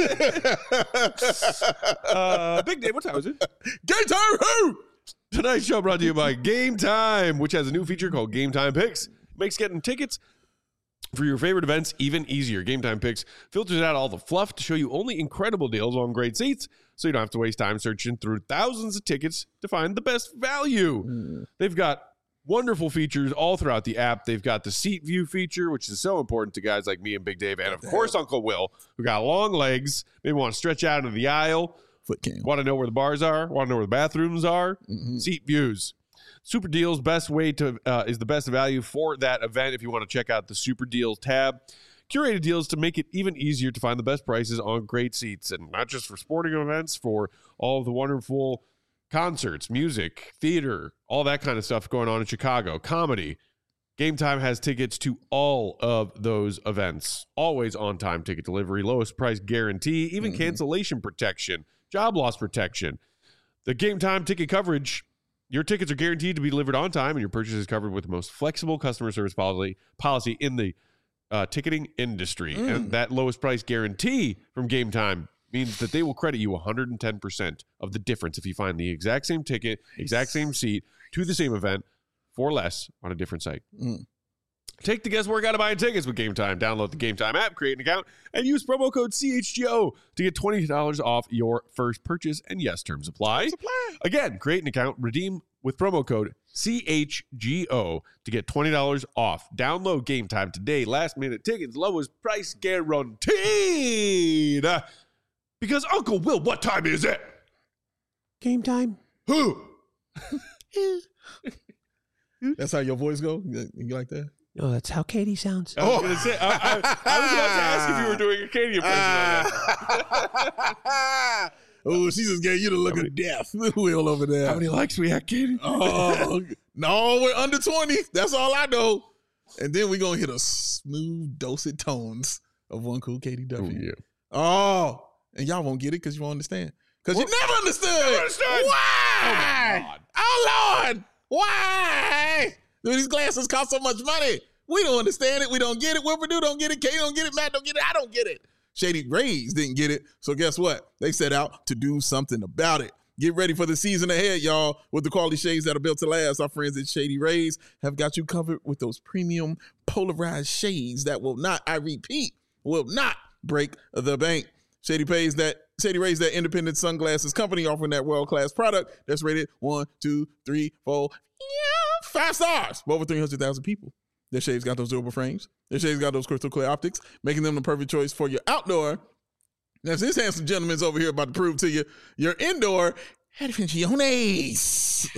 S1: uh, Big Dave, what time is it?
S3: Game time, who?
S1: Tonight's show brought to you by Game Time, which has a new feature called Game Time Picks. Makes getting tickets for your favorite events even easier. Game Time Picks filters out all the fluff to show you only incredible deals on great seats, so you don't have to waste time searching through thousands of tickets to find the best value.
S3: Mm.
S1: They've got wonderful features all throughout the app. They've got the seat view feature, which is so important to guys like me and Big Dave, and of course Uncle Will, who got long legs, maybe want to stretch out into the aisle,
S3: Foot cam.
S1: want to know where the bars are, want to know where the bathrooms are.
S3: Mhm.
S1: Seat views. Super deals, best way to uh, is the best value for that event. If you want to check out the Super Deals tab, curated deals to make it even easier to find the best prices on great seats, and not just for sporting events, for all of the wonderful concerts, music, theater, all that kind of stuff going on in Chicago, comedy. Game Time has tickets to all of those events. Always on time ticket delivery, lowest price guarantee, even
S3: Mhm.
S1: cancellation protection, job loss protection. The Game Time ticket coverage, your tickets are guaranteed to be delivered on time, and your purchase is covered with the most flexible customer service policy policy in the uh, ticketing industry.
S3: Mm.
S1: And that lowest price guarantee from Game Time means that they will credit you one hundred ten percent of the difference if you find the exact same ticket, exact same seat to the same event for less on a different site.
S3: Mm.
S1: Take the guesswork out of buying tickets with Game Time. Download the Game Time app, create an account, and use promo code C H G O to get twenty dollars off your first purchase. And yes, terms apply. Again, create an account, redeem with promo code C H G O to get twenty dollars off. Download Game Time today. Last minute tickets, lowest price guaranteed. Because Uncle Will, what time is it?
S4: Game time.
S1: Who?
S3: That's how your voice go? You you like that?
S4: Oh, that's how Katie sounds.
S1: I was, gonna say, I, I, I was about to ask if you were doing a Katie impression on that.
S3: Oh, she just gave you the look of death. Will over there.
S1: How many likes we had, Katie?
S3: Oh, no, we're under twenty. That's all I know. And then we're going to hit a smooth, dulcet tones of one cool Katie Duffy.
S1: Oh, yeah.
S3: Oh, and y'all won't get it because you won't understand. Because you never understood.
S1: Never understood.
S3: Why?
S1: Oh, my God.
S3: Oh, Lord. Why? Dude, these glasses cost so much money. We don't understand it. We don't get it. Will Purdue don't get it. Katie don't get it. Matt don't get it. I don't get it. Shady Rays didn't get it. So guess what? They set out to do something about it. Get ready for the season ahead, y'all, with the quality shades that are built to last. Our friends at Shady Rays have got you covered with those premium polarized shades that will not, I repeat, will not break the bank. Shady pays that Shady Rays, that independent sunglasses company offering that world-class product that's rated one, two, three, four, yeah, five stars for over three hundred thousand people. Their shades got those durable frames. Their shades got those crystal clear optics, making them the perfect choice for your outdoor. Now, this handsome gentleman's over here about to prove to you your indoor adventiones.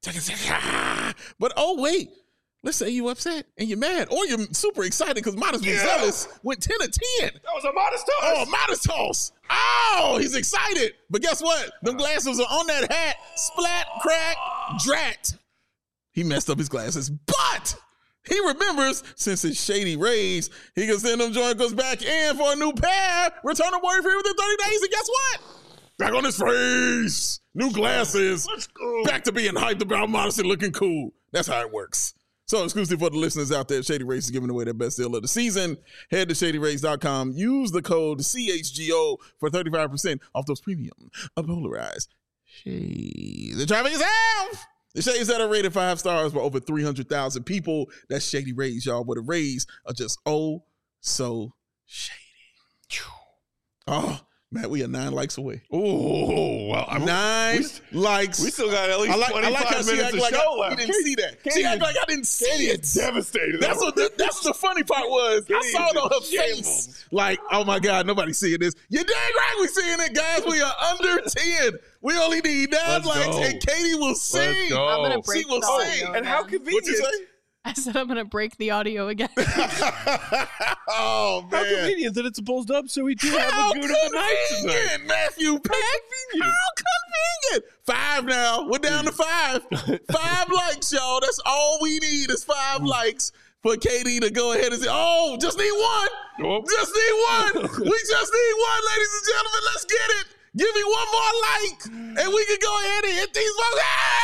S3: But oh, wait. Let's say you upset and you're mad, or you're super excited because Modest
S1: Yeah.
S3: Gonzalez went ten to ten.
S1: That was a modest toss.
S3: Oh, Modest toss. Oh, he's excited. But guess what? Them glasses are on that hat. Splat, crack, drat. He messed up his glasses, but he remembers since it's Shady Rays, he can send them joint back in for a new pair. Return them worry free within thirty days, and guess what? Back on his face. New glasses.
S1: Let's go.
S3: Back to being hyped about Modest and looking cool. That's how it works. So exclusive for the listeners out there, Shady Rays is giving away their best deal of the season. Head to shady rays dot com. Use the code C H G O for thirty-five percent off those premium, polarized shades. The traffic is out. The shades that are rated five stars by over three hundred thousand people. That's Shady Rays, y'all, where the rays are just oh so shady. Oh, Matt, we are nine likes away.
S1: Oh, well, I'm,
S3: Nine
S1: we,
S3: likes.
S1: we still got at least
S3: I like, I
S1: twenty-five
S3: like how she
S1: minutes
S3: act
S1: of
S3: like
S1: show
S3: I,
S1: left.
S3: we didn't see that.
S1: Katie
S3: She act
S1: is-
S3: like I didn't see
S1: Katie
S3: it.
S1: is devastated.
S3: That's what the, that's the funny part was. I
S1: Katie
S3: saw it
S1: is
S3: on her
S1: in
S3: face.
S1: shambles.
S3: Like, oh my God, nobody's seeing this. You're dang right we seeing it, guys. We are under ten. We only need nine
S1: Let's
S3: likes,
S1: go.
S3: and Katie will sing.
S1: go.
S2: I'm gonna
S1: Oh,
S2: break
S3: she will
S2: the
S3: sing.
S2: audio
S1: And how
S2: again.
S1: convenient.
S3: What'd you say?
S2: I said I'm gonna break the audio again.
S3: Oh,
S1: How
S3: man.
S1: convenient that it's supposed up so we do
S3: How
S1: have a good of the night tonight.
S3: convenient, Matthew Peck. How convenient. Five now. We're down to five. Five likes, y'all. That's all we need is five likes for Katie to go ahead and say, oh, just need one.
S1: Nope.
S3: Just need one. We just need one, ladies and gentlemen. Let's get it. Give me one more like, and we can go ahead and hit these folks.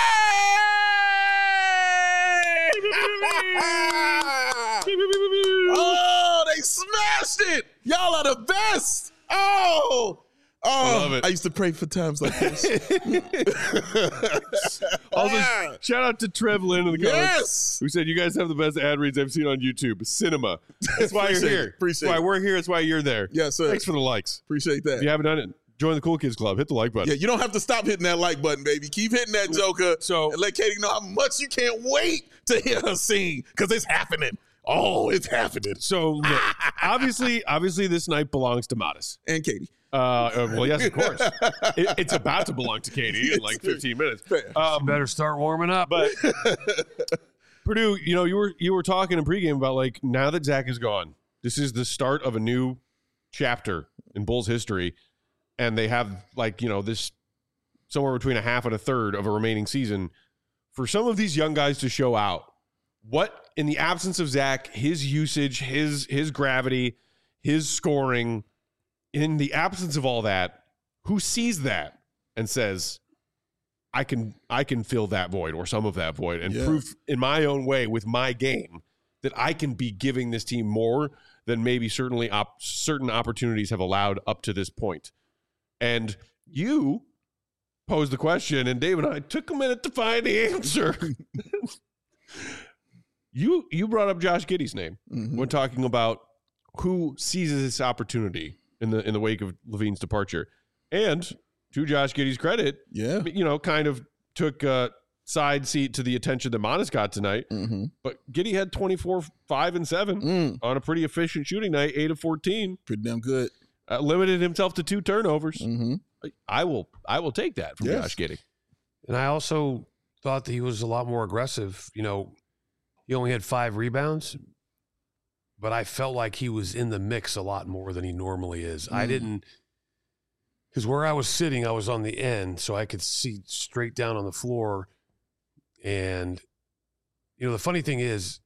S3: Oh, they smashed it. Y'all are the best. Oh. Oh,
S1: Love it.
S3: I used to pray for times like this.
S1: Also,
S3: Ah.
S1: shout out to Trev Lynn in the comments.
S3: Yes.
S1: Who said you guys have the best ad reads I've seen on YouTube? Cinema. That's why you're
S3: Appreciate
S1: here.
S3: it. Appreciate
S1: That's why
S3: it.
S1: we're here. That's why you're there.
S3: Yes, sir.
S1: Thanks for the likes.
S3: Appreciate that.
S1: If you haven't done it, join the Cool Kids Club. Hit the like button.
S3: Yeah, you don't have to stop hitting that like button, baby. Keep hitting that joker.
S1: So-
S3: and let Katie know how much you can't wait to hear her sing because it's happening. Oh, it's happening.
S1: So look, obviously, obviously, this night belongs to Modest.
S3: And Katie.
S1: Uh, uh, well, yes, of course. It, it's about to belong to Katie in like fifteen minutes.
S3: Fair.
S1: Um,
S4: Better start warming up.
S1: but Purdue, you know, you were you were talking in pregame about like now that Zach is gone, this is the start of a new chapter in Bulls history, and they have like you know this somewhere between a half and a third of a remaining season for some of these young guys to show out. What in the absence of Zach, his usage, his his gravity, his scoring, in the absence of all that, who sees that and says, I can I can fill that void or some of that void and
S3: Yeah.
S1: prove in my own way with my game that I can be giving this team more than maybe certainly op- certain opportunities have allowed up to this point. And you posed the question, and Dave and I took a minute to find the answer. you you brought up Josh Giddey's name
S3: Mhm.
S1: when talking about who seizes this opportunity in the in the wake of Levine's departure. And to Josh Giddey's credit,
S3: Yeah.
S1: you know, kind of took a side seat to the attention that Modest got tonight.
S3: Mm-hmm.
S1: But Giddey had twenty-four, five, and seven
S3: Mm.
S1: on a pretty efficient shooting night, eight of fourteen.
S3: Pretty damn good.
S1: Uh, limited himself to two turnovers.
S3: Mm-hmm.
S1: I will I will take that from
S3: Yes.
S1: Josh Giddey.
S4: And I also thought that he was a lot more aggressive. You know, he only had five rebounds, but I felt like he was in the mix a lot more than he normally is. I
S3: Mm.
S4: didn't, because where I was sitting, I was on the end, so I could see straight down on the floor. And, you know, the funny thing is,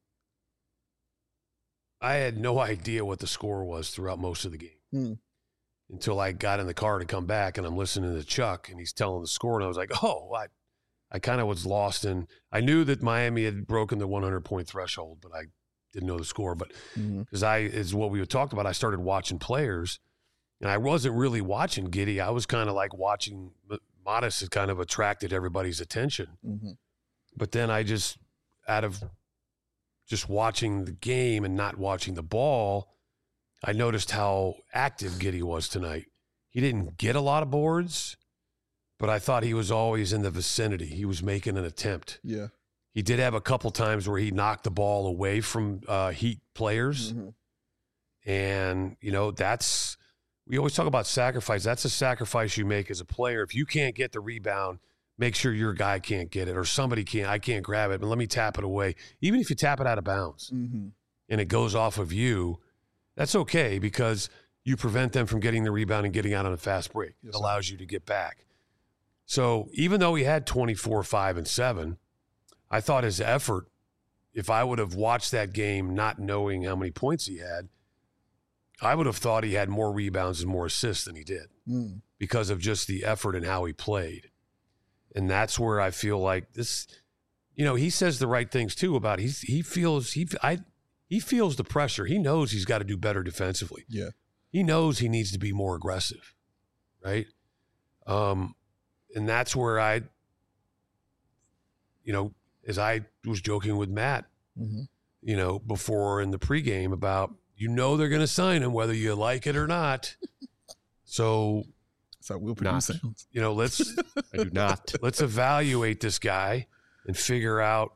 S4: I had no idea what the score was throughout most of the game.
S3: Mm.
S4: Until I got in the car to come back, and I'm listening to Chuck, and he's telling the score, and I was like, oh, I, I kind of was lost in. I knew that Miami had broken the one hundred point threshold, but I didn't know the score. But because mm-hmm. I is what we had talked about, I started watching players, and I wasn't really watching Giddey. I was kind of like watching. Modest had kind of attracted everybody's attention, mm-hmm. but then I just out of just watching the game and not watching the ball, I noticed how active Giddey was tonight. He didn't get a lot of boards, but I thought he was always in the vicinity. He was making an attempt.
S3: Yeah.
S4: He did have a couple times where he knocked the ball away from uh, Heat players. Mm-hmm. And, you know, that's – we always talk about sacrifice. That's a sacrifice you make as a player. If you can't get the rebound, make sure your guy can't get it or somebody can't. I can't grab it, but let me tap it away. Even if you tap it out of bounds mm-hmm. and it goes off of you, that's okay because you prevent them from getting the rebound and getting out on a fast break. Yes, it allows you to get back. So even though he had twenty-four, five, and seven, I thought his effort, if I would have watched that game not knowing how many points he had, I would have thought he had more rebounds and more assists than he did mm. because of just the effort and how he played. And that's where I feel like this, you know, he says the right things too about he's, he feels, he, I, he feels the pressure. He knows he's got to do better defensively.
S3: Yeah.
S4: He knows he needs to be more aggressive. Right. Um, and that's where I, you know, as I was joking with Matt, mm-hmm. you know, before in the pregame about, you know, they're going to sign him whether you like it or not. So,
S3: so we'll produce sounds.
S4: You know, let's
S1: I do not.
S4: Let's evaluate this guy and figure out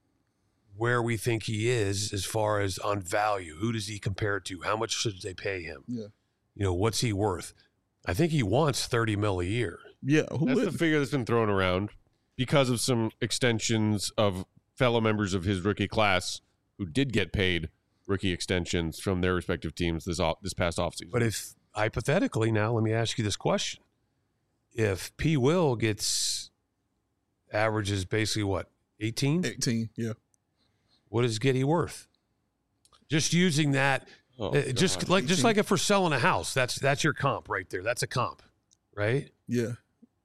S4: where we think he is as far as on value. Who does he compare to? How much should they pay him?
S3: Yeah.
S4: You know, what's he worth? I think he wants thirty mil a year.
S3: Yeah.
S1: Who that's would? The figure that's been thrown around because of some extensions of fellow members of his rookie class who did get paid rookie extensions from their respective teams this off, this past offseason.
S4: But if, hypothetically now, let me ask you this question. If P. Will gets, averages basically what, eighteen?
S3: eighteen, yeah.
S4: What is Giddey worth? Just using that, oh, uh, just God. like eighteen. Just like if we're selling a house, that's that's your comp right there. That's a comp, right?
S3: Yeah.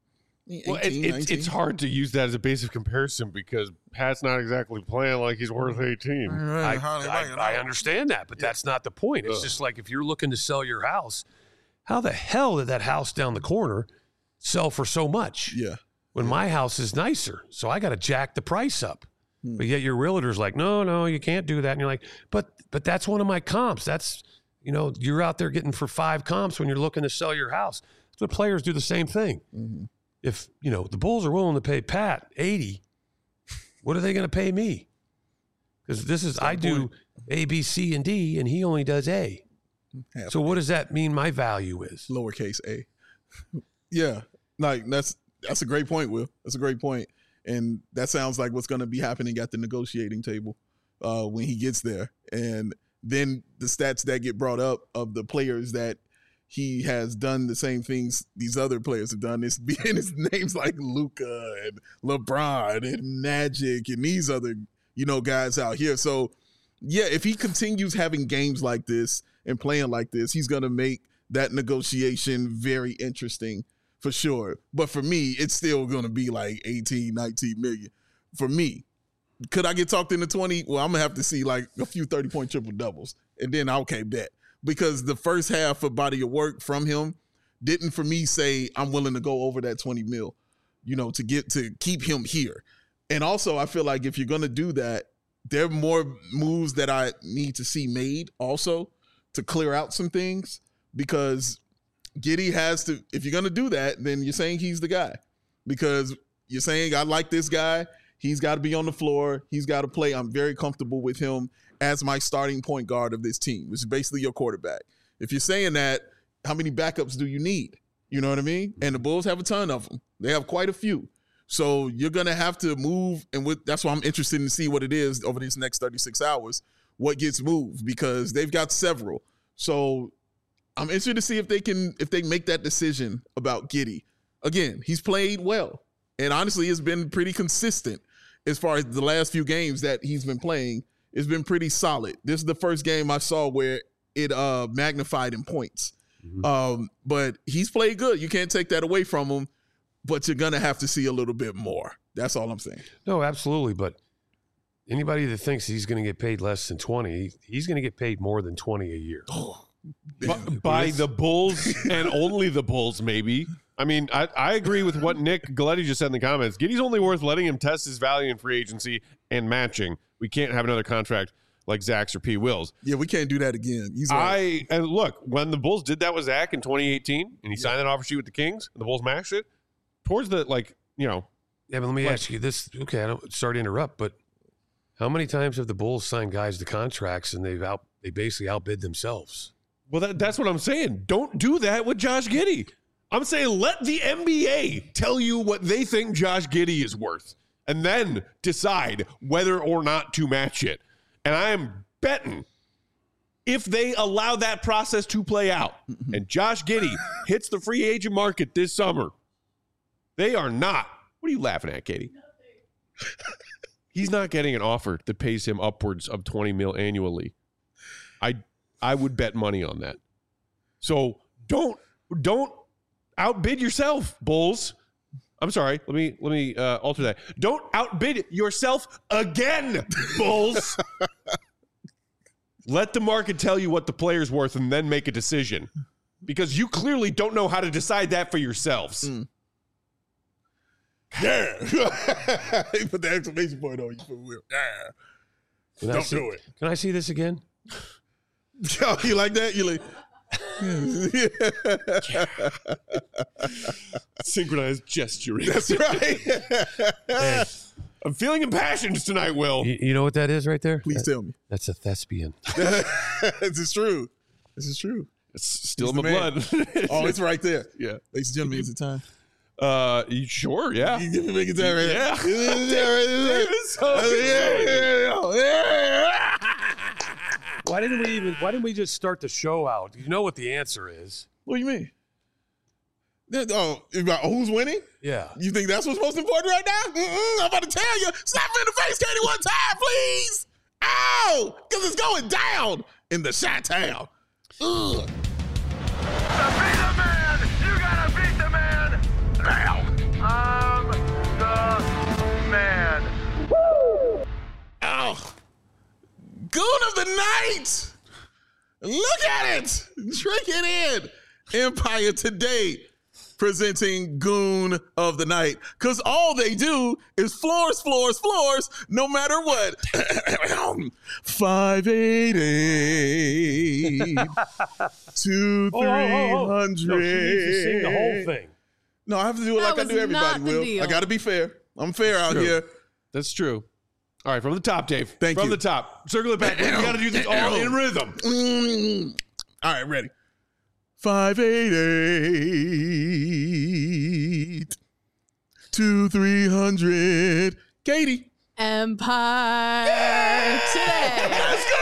S1: Well, eighteen, it, it, it's hard to use that as a base of comparison because Pat's not exactly playing like he's worth eighteen.
S4: I, I, I understand that, but yeah. that's not the point. It's Ugh. just like if you're looking to sell your house, how the hell did that house down the corner sell for so much?
S3: Yeah.
S4: When
S3: yeah.
S4: my house is nicer, so I got to jack the price up. Hmm. But yet your realtor's like, no, no, you can't do that. And you're like, but but that's one of my comps. That's, you know, you're out there getting for five comps when you're looking to sell your house. So players do the same thing. Mm-hmm. If, you know, the Bulls are willing to pay Pat eighty, what are they going to pay me? Because this is, I do A, B, C, and D, and he only does A. Half so what does that mean my value is?
S3: Lowercase a. Yeah. Like, that's that's a great point, Will. That's a great point. And that sounds like what's going to be happening at the negotiating table uh, when he gets there. And then the stats that get brought up of the players that he has done the same things these other players have done. It's being his names like Luka and LeBron and Magic and these other, you know, guys out here. So, yeah, if he continues having games like this and playing like this, he's going to make that negotiation very interesting for sure. But for me, it's still going to be like eighteen, nineteen million. For me, could I get talked into twenty? Well, I'm going to have to see like a few thirty-point triple-doubles. And then, okay, bet. Because the first half of body of work from him didn't, for me, say I'm willing to go over that twenty mil, you know, to get to keep him here. And also, I feel like if you're going to do that, there are more moves that I need to see made also to clear out some things because Giddey has to, if you're going to do that, then you're saying he's the guy because you're saying I like this guy. He's got to be on the floor. He's got to play. I'm very comfortable with him as my starting point guard of this team, which is basically your quarterback. If you're saying that, how many backups do you need? You know what I mean? And the Bulls have a ton of them. They have quite a few. So you're going to have to move, and with, that's why I'm interested in see what it is over these next thirty-six hours, what gets moved, because they've got several. So I'm interested to see if they can, if they make that decision about Giddey. Again, he's played well, and honestly, it's been pretty consistent as far as the last few games that he's been playing. It's been pretty solid. This is the first game I saw where it uh, magnified in points. Mm-hmm. Um, but he's played good. You can't take that away from him, but you're going to have to see a little bit more That's all I'm saying.
S4: No, absolutely. But anybody that thinks he's going to get paid less than twenty, he's going to get paid more than twenty a year.
S1: by, by the Bulls and only the Bulls, maybe. I mean, I, I agree with what Nick Galletti just said in the comments. Giddey's only worth letting him test his value in free agency and matching. We can't have another contract like Zach's or P. Will's.
S3: Yeah, we can't do that again. He's right.
S1: I and look, when the Bulls did that with Zach in twenty eighteen, and he yeah. signed that offer sheet with the Kings, and the Bulls matched it towards the like, you know.
S4: Yeah, but let me
S1: like,
S4: ask you this. Okay, I don't sorry to interrupt, but how many times have the Bulls signed guys to contracts and they've out they basically outbid themselves?
S1: Well, that, that's what I'm saying. Don't do that with Josh Giddey. I'm saying let the N B A tell you what they think Josh Giddey is worth, and then decide whether or not to match it. And I am betting if they allow that process to play out and Josh Giddey hits the free agent market this summer, they are not. What are you laughing at, Katie? He's not getting an offer that pays him upwards of twenty mil annually. I I would bet money on that. So don't don't outbid yourself, Bulls. I'm sorry. Let me let me uh, alter that. Don't outbid yourself again, Bulls. Let the market tell you what the player's worth and then make a decision, because you clearly don't know how to decide that for yourselves.
S3: Mm. Yeah. Put the exclamation point on you for real. Yeah.
S4: Can
S3: Don't
S4: see,
S3: do it.
S4: Can I see this again?
S3: Oh, you like that? You like
S1: synchronized gesturing.
S3: That's right.
S4: Hey,
S1: I'm feeling impassioned tonight, Will.
S4: you, you know what that is right there?
S3: Please
S4: That-
S3: tell me.
S4: That's a thespian.
S3: This is true. This is true.
S1: It's still
S3: He's
S1: in my
S3: the man.
S1: blood.
S3: Oh, it's right there.
S1: Yeah.
S3: Ladies and gentlemen, is it time?
S1: Uh, you sure? Yeah.
S3: You give me make it time right
S1: Yeah.
S3: Is it time right there?
S1: It's so
S3: Oh, yeah, yeah, yeah.
S4: Why didn't we even? Why didn't we just start the show out? You know what the answer is?
S3: What do you mean? That- Oh, about who's winning?
S4: Yeah.
S3: You think that's what's most important right now? Mm-mm, I'm about to tell you. Slap me in the face, Katie, one time, please. Ow! Because it's going down in the Chi-Town. Ugh.
S5: To be the man, you gotta beat the man now. I'm the man.
S3: Ow. Goon of the night. Look at it. Drink it in. Empire Today presenting Goon of the Night. Because all they do is floors, floors, floors, no matter what. five eighty-eight to
S4: Oh, oh, oh, oh.
S3: three hundred.
S4: No, she needs to sing the whole thing.
S3: No, I have to do it
S2: That
S3: like I
S2: was
S3: do everybody,
S2: not the
S3: Will.
S2: deal.
S3: I got to be fair. I'm fair out
S1: true.
S3: here.
S1: That's true. All right, from the top, Dave.
S3: Thank
S1: from
S3: you.
S1: the top. Circle it back. We got to do this all in rhythm.
S3: Mm. All right, ready. five eighty-eight to three hundred. Katie.
S2: Empire Today.
S3: Let's go!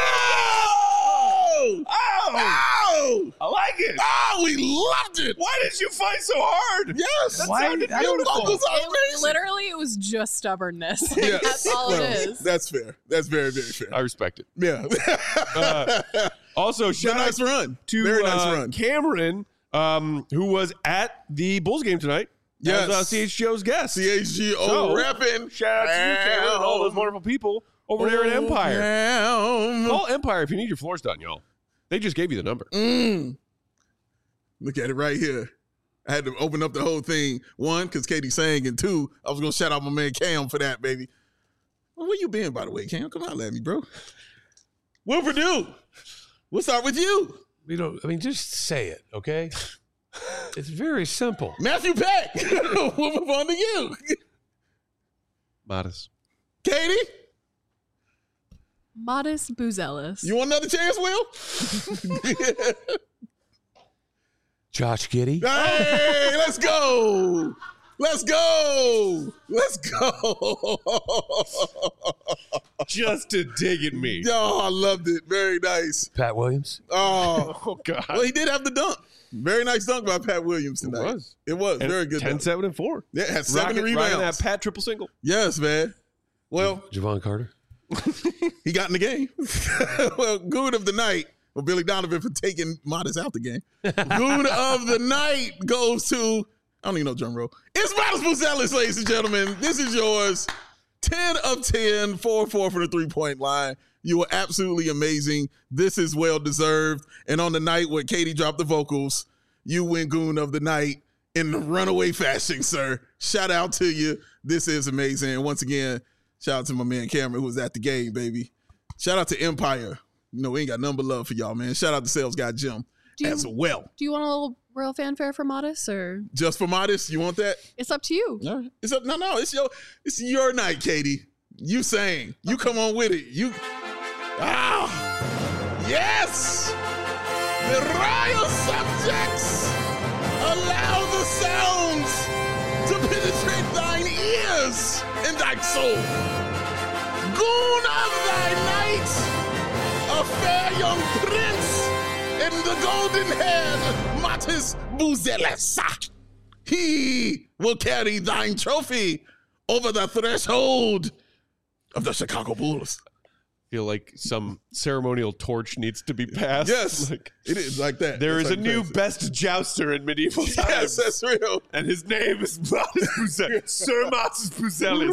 S1: Oh,
S3: Oh!
S1: I like it.
S3: Oh, we loved it.
S1: Why did you fight so hard?
S3: Yes.
S1: That sounded
S3: Your
S1: beautiful.
S3: vocals are
S2: It,
S3: amazing.
S2: literally, it was just stubbornness.
S3: Yes.
S2: That's all
S3: Well,
S2: it is.
S3: That's fair. That's very, very fair.
S1: I respect it.
S3: Yeah.
S1: Uh, Also,
S3: It's a
S1: shout out
S3: nice run.
S1: to
S3: Very nice
S1: uh,
S3: run.
S1: Cameron, um, who was at the Bulls game tonight.
S3: Yes.
S1: As, uh, C H G O's guest.
S3: C H G O
S1: So,
S3: repping.
S1: Shout out to you, Cameron, and all those wonderful people over there at Empire.
S3: Down.
S1: Call Empire if you need your floors done, y'all. They just gave you the number.
S3: Mm. Look at it right here. I had to open up the whole thing. One, because Katie sang, and two, I was going to shout out my man Cam for that, baby. Well, where you been, by the way, Cam? Come on, at me, bro. Will Purdue. We'll start with you.
S4: We don't. I mean, just say it, okay? It's very simple.
S3: Matthew Peck. We'll move on to you.
S1: Modest.
S3: Katie,
S2: Modest Buzelis.
S3: you want another chance, Will?
S4: Josh Giddey.
S3: Hey, let's go. Let's go. Let's go.
S1: Just to dig at me.
S3: Oh, I loved it. Very nice.
S4: Pat Williams.
S3: Oh,
S1: Oh, God.
S3: well, he did have the dunk. Very nice dunk by Pat Williams
S1: It
S3: tonight.
S1: was.
S3: It was.
S1: And
S3: Very good
S1: ten,
S3: dunk.
S1: seven, and four.
S3: Yeah, had seven
S1: Rocking,
S3: rebounds.
S1: rocking that Pat triple single.
S3: Yes, man. Well,
S4: Javon Carter.
S3: he got in the game. Well, Goon of the night. Well, Billy Donovan for taking Modest out the game. Goon of the night goes to, I don't even know drum roll. It's Miles Buzelis, ladies and gentlemen. This is yours. ten of ten, four four for the three-point line. You were absolutely amazing. This is well-deserved. And on the night where Katie dropped the vocals, you win Goon of the Night in the runaway fashion, sir. Shout out to you. This is amazing. And once again, shout out to my man Cameron, who was at the game, baby. Shout out to Empire. You know, we ain't got nothing but love for y'all, man. Shout out to Sales Guy Jim
S2: Do you-
S3: as well.
S2: Do you want a little real fanfare for Modest, or
S3: Just for Modest, you want that?
S2: it's up to you?
S3: All right. It's up. No, no, it's your it's your night, Katie. You sang. You come on with it. You Ah yes! The royal subjects allow the sounds to penetrate thine ears and thy soul. Goon of thy night, a fair young prince in the golden-haired Matis Buzelis. He will carry thine trophy over the threshold of the Chicago Bulls.
S1: Feel like some ceremonial torch needs to be passed.
S3: Yes,
S1: Like,
S3: it is like that.
S1: there
S3: That's
S1: is a
S3: how
S1: new
S3: you pass it.
S1: best jouster in medieval times.
S3: Yes, that's real.
S1: And his name is Matis Buzelis. Sir Matis Buzelis.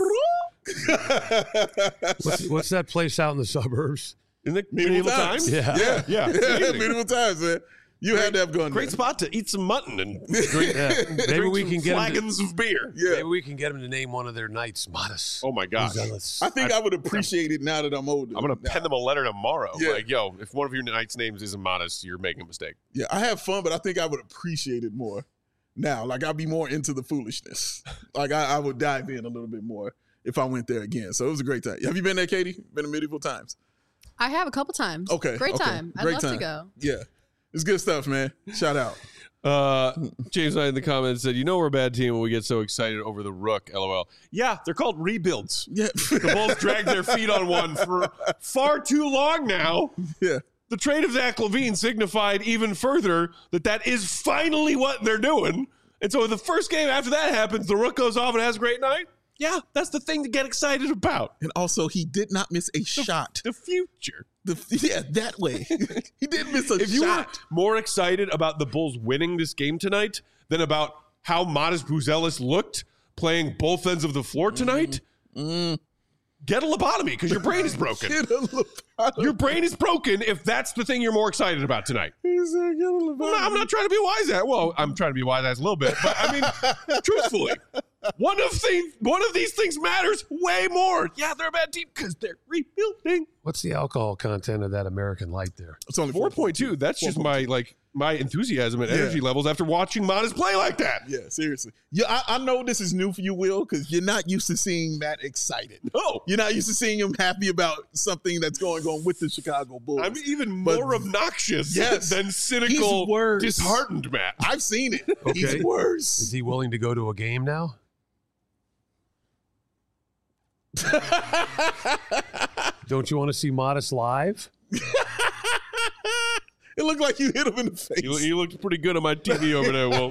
S4: What's, what's that place out in the suburbs?
S1: In the
S3: Medieval
S1: medieval
S3: times.
S1: times?
S4: Yeah.
S3: Yeah,
S1: Yeah, it's
S3: yeah.
S1: amazing.
S3: Medieval times, man. You had to have gone
S1: Great
S3: there.
S1: spot to eat some mutton and drink,
S4: Yeah. Maybe
S1: drink
S4: we
S1: some
S4: can get him. To,
S1: flagons of beer.
S3: Yeah.
S4: maybe we can get him to name one of their nights. Modest.
S1: Oh my gosh.
S4: Buzelis.
S3: I think I, would appreciate it now that I'm older.
S1: I'm gonna pen them a letter tomorrow.
S3: Yeah.
S1: Like, yo, if one of your knight's names isn't Modest, you're making a mistake.
S3: Yeah, I have fun, but I think I would appreciate it more now. Like, I'd be more into the foolishness. Like, I, I would dive in a little bit more if I went there again. So it was a great time. Have you been there, Katie? Been to medieval times?
S2: I have a couple times.
S3: Okay.
S2: Great
S3: okay.
S2: time. I'd
S3: Great
S2: love
S3: time.
S2: to go.
S3: Yeah. It's good stuff, man. Shout out.
S1: Uh, James Knight in the comments said, "You know we're a bad team when we get so excited over the Rook." L O L. Yeah, they're called rebuilds.
S3: Yeah.
S1: The Bulls dragged their feet on one for far too long now.
S3: Yeah.
S1: The trade of Zach LaVine signified even further that that is finally what they're doing. And so the first game after that happens, the Rook goes off and has a great night. Yeah, that's the thing to get excited about.
S3: And also, he did not miss a shot.
S1: The future.
S3: The, yeah, that way. He did miss a
S1: If you were
S3: shot.
S1: more excited about the Bulls winning this game tonight than about how Modest Buzelis looked playing both ends of the floor tonight,
S3: Mm.
S1: get a lobotomy because your brain is broken.
S3: Get a Lovato.
S1: Your brain is broken if that's the thing you're more excited about tonight.
S3: He said, get a
S1: I'm
S3: Lovato.
S1: not, I'm not trying to be wise ass. Well, I'm trying to be wise ass a little bit, but I mean, truthfully, one of things, one of these things matters way more. Yeah, they're a bad team because they're rebuilding.
S4: What's the alcohol content of that American Light there?
S3: It's only
S1: Four point two. That's just my like my enthusiasm and
S3: Yeah.
S1: energy levels after watching Modest play like that.
S3: Yeah, seriously. Yeah, I, I know this is new for you, Will, because you're not used to seeing Matt excited.
S1: No,
S3: You're not used to seing him happy about something that's going on with the Chicago Bulls.
S1: I'm even
S3: But-
S1: more obnoxious
S3: Yes.
S1: than cynical,
S3: He's worse.
S1: disheartened Matt.
S3: I've seen it.
S4: Okay.
S3: He's
S4: Is
S3: worse.
S4: he willing to go to a game now? Don't you want to see Modest live?
S3: It looked like you hit him in the face.
S1: He, he looked pretty good on my T V over there, Will.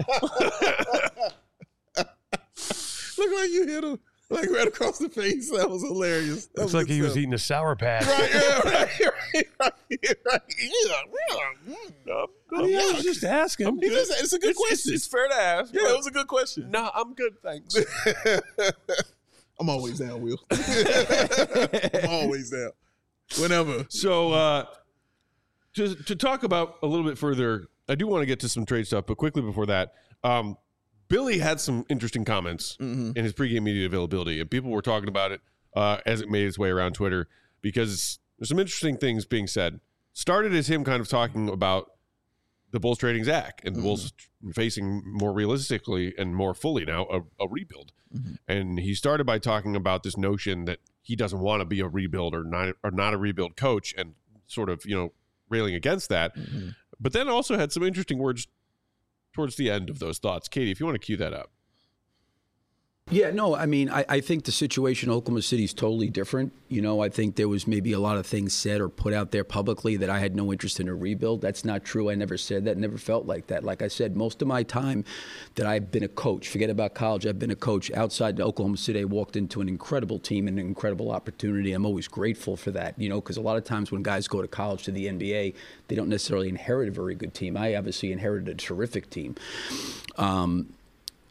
S3: Looked like you hit him like right across the face. That was hilarious. That
S4: Looks like
S3: good
S4: he was
S3: stuff.
S4: eating a Sour Patch.
S3: Right, yeah, right, right, right, right. Yeah,
S1: No,
S3: yeah.
S4: Yeah, I was just asking.
S3: He just- it's a good
S1: it's,
S3: question.
S1: It's, it's fair to ask.
S3: yeah, it was a good question.
S1: No, I'm good, thanks.
S3: I'm always down, Will. I'm always down. Whenever.
S1: So, uh, to to talk about a little bit further, I do want to get to some trade stuff, but quickly before that, um, Billy had some interesting comments
S3: Mm-hmm.
S1: in his pregame media availability, and people were talking about it uh, as it made its way around Twitter because there's some interesting things being said. Started as him kind of talking about the Bulls trading Zach and the
S3: Mm-hmm.
S1: Bulls facing more realistically and more fully now a, a rebuild.
S3: Mm-hmm.
S1: And he started by talking about this notion that he doesn't want to be a rebuild or not or not a rebuild coach, and sort of, you know, railing against that.
S3: Mm-hmm.
S1: But then also had some interesting words towards the end of those thoughts. Katie, if you want to cue that up.
S6: Yeah, no, I mean, I, I think the situation in Oklahoma City is totally different. You know, I think there was maybe a lot of things said or put out there publicly that I had no interest in a rebuild. That's not true. I never said that, never felt like that. Like I said, most of my time that I've been a coach, forget about college, I've been a coach outside Oklahoma City. I walked into an incredible team and an incredible opportunity. I'm always grateful for that, you know, because a lot of times when guys go to college to the N B A, they don't necessarily inherit a very good team. I obviously inherited a terrific team. Um,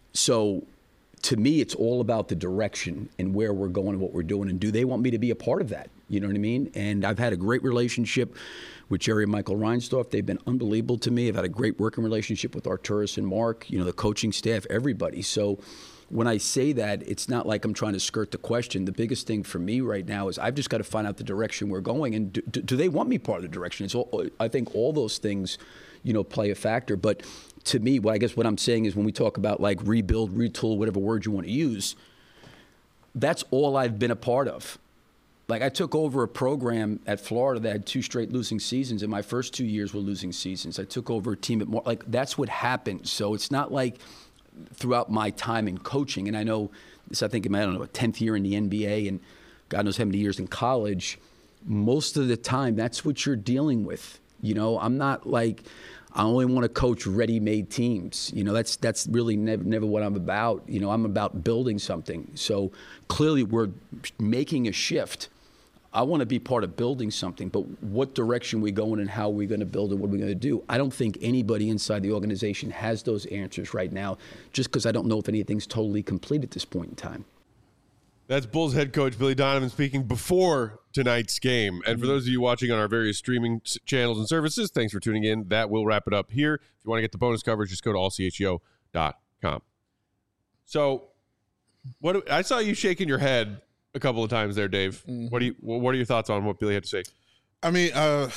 S6: So to me, it's all about the direction and where we're going and what we're doing. And do they want me to be a part of that? You know what I mean? And I've had a great relationship with Jerry and Michael Reinsdorf. They've been unbelievable to me. I've had a great working relationship with Arturas and Mark, you know, the coaching staff, everybody. So when I say that, it's not like I'm trying to skirt the question. The biggest thing for me right now is I've just got to find out the direction we're going. And do, do, do they want me part of the direction? It's all, I think all those things, you know, play a factor. But to me, well, I guess what I'm saying is when we talk about like rebuild, retool, whatever word you want to use, that's all I've been a part of. Like I took over a program at Florida that had two straight losing seasons, and my first two years were losing seasons. I took over a team at more, like that's what happened. So it's not like throughout my time in coaching, and I know this, I think in my, I don't know, a tenth year in the N B A and God knows how many years in college, most of the time that's what you're dealing with. You know, I'm not like, I only want to coach ready-made teams. You know, that's that's really never, never what I'm about. You know, I'm about building something. So clearly we're making a shift. I want to be part of building something, but what direction we going and how are we going to build it, what are we going to do? I don't think anybody inside the organization has those answers right now, just because I don't know if anything's totally complete at this point in time.
S1: That's Bulls head coach Billy Donovan speaking before tonight's game. And for those of you watching on our various streaming channels and services, thanks for tuning in. That will wrap it up here. If you want to get the bonus coverage, just go to all c h e o dot com. So what I saw you shaking your head a couple of times there, Dave. Mm-hmm. What do you what are your thoughts on what Billy had to say?
S3: I mean, uh,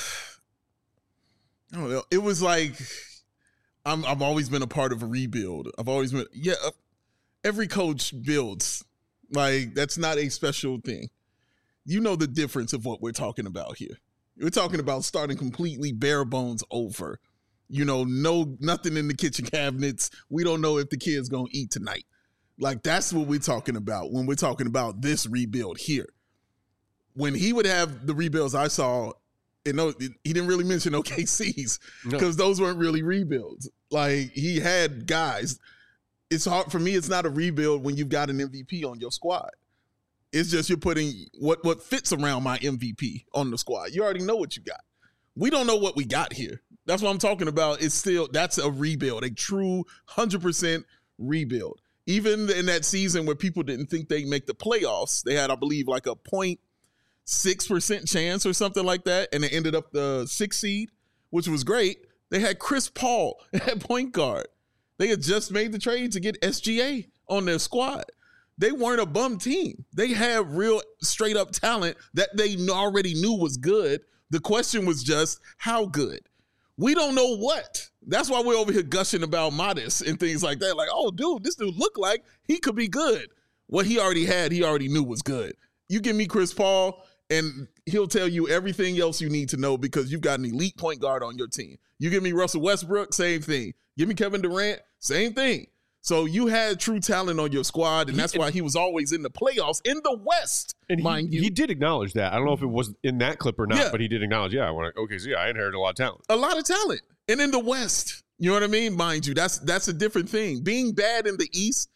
S3: I don't know. It was like I'm I've always been a part of a rebuild. I've always been yeah, every coach builds. Like, that's not a special thing. You know the difference of what we're talking about here. We're talking about starting completely bare bones over. You know, no nothing in the kitchen cabinets. We don't know if the kid's going to eat tonight. Like, that's what we're talking about when we're talking about this rebuild here. When he would have the rebuilds I saw, and no, he didn't really mention O K C's because no. those weren't really rebuilds. Like, he had guys. It's hard for me. It's not a rebuild when you've got an M V P on your squad. It's just you're putting what, what fits around my M V P on the squad. You already know what you got. We don't know what we got here. That's what I'm talking about. It's still, that's a rebuild, a true one hundred percent rebuild. Even in that season where people didn't think they'd make the playoffs, they had, I believe, like a zero point six percent chance or something like that, and they ended up the sixth seed, which was great. They had Chris Paul at point guard. They had just made the trade to get S G A on their squad. They weren't a bum team. They had real straight up talent that they already knew was good. The question was just how good. We don't know what. That's why we're over here gushing about Modest and things like that. Like, oh, dude, this dude looked like he could be good. What he already had, he already knew was good. You give me Chris Paul, and he'll tell you everything else you need to know because you've got an elite point guard on your team. You give me Russell Westbrook, same thing. Give me Kevin Durant, same thing. So you had true talent on your squad, and that's why he was always in the playoffs in the West,
S1: and
S3: mind
S1: he,
S3: you.
S1: He did acknowledge that. I don't know if it was in that clip or not,
S3: yeah.
S1: but he did acknowledge, yeah, I want to, okay, so yeah, I inherited a lot of talent.
S3: A lot of talent. And in the West, you know what I mean? Mind you, that's that's a different thing. Being bad in the East,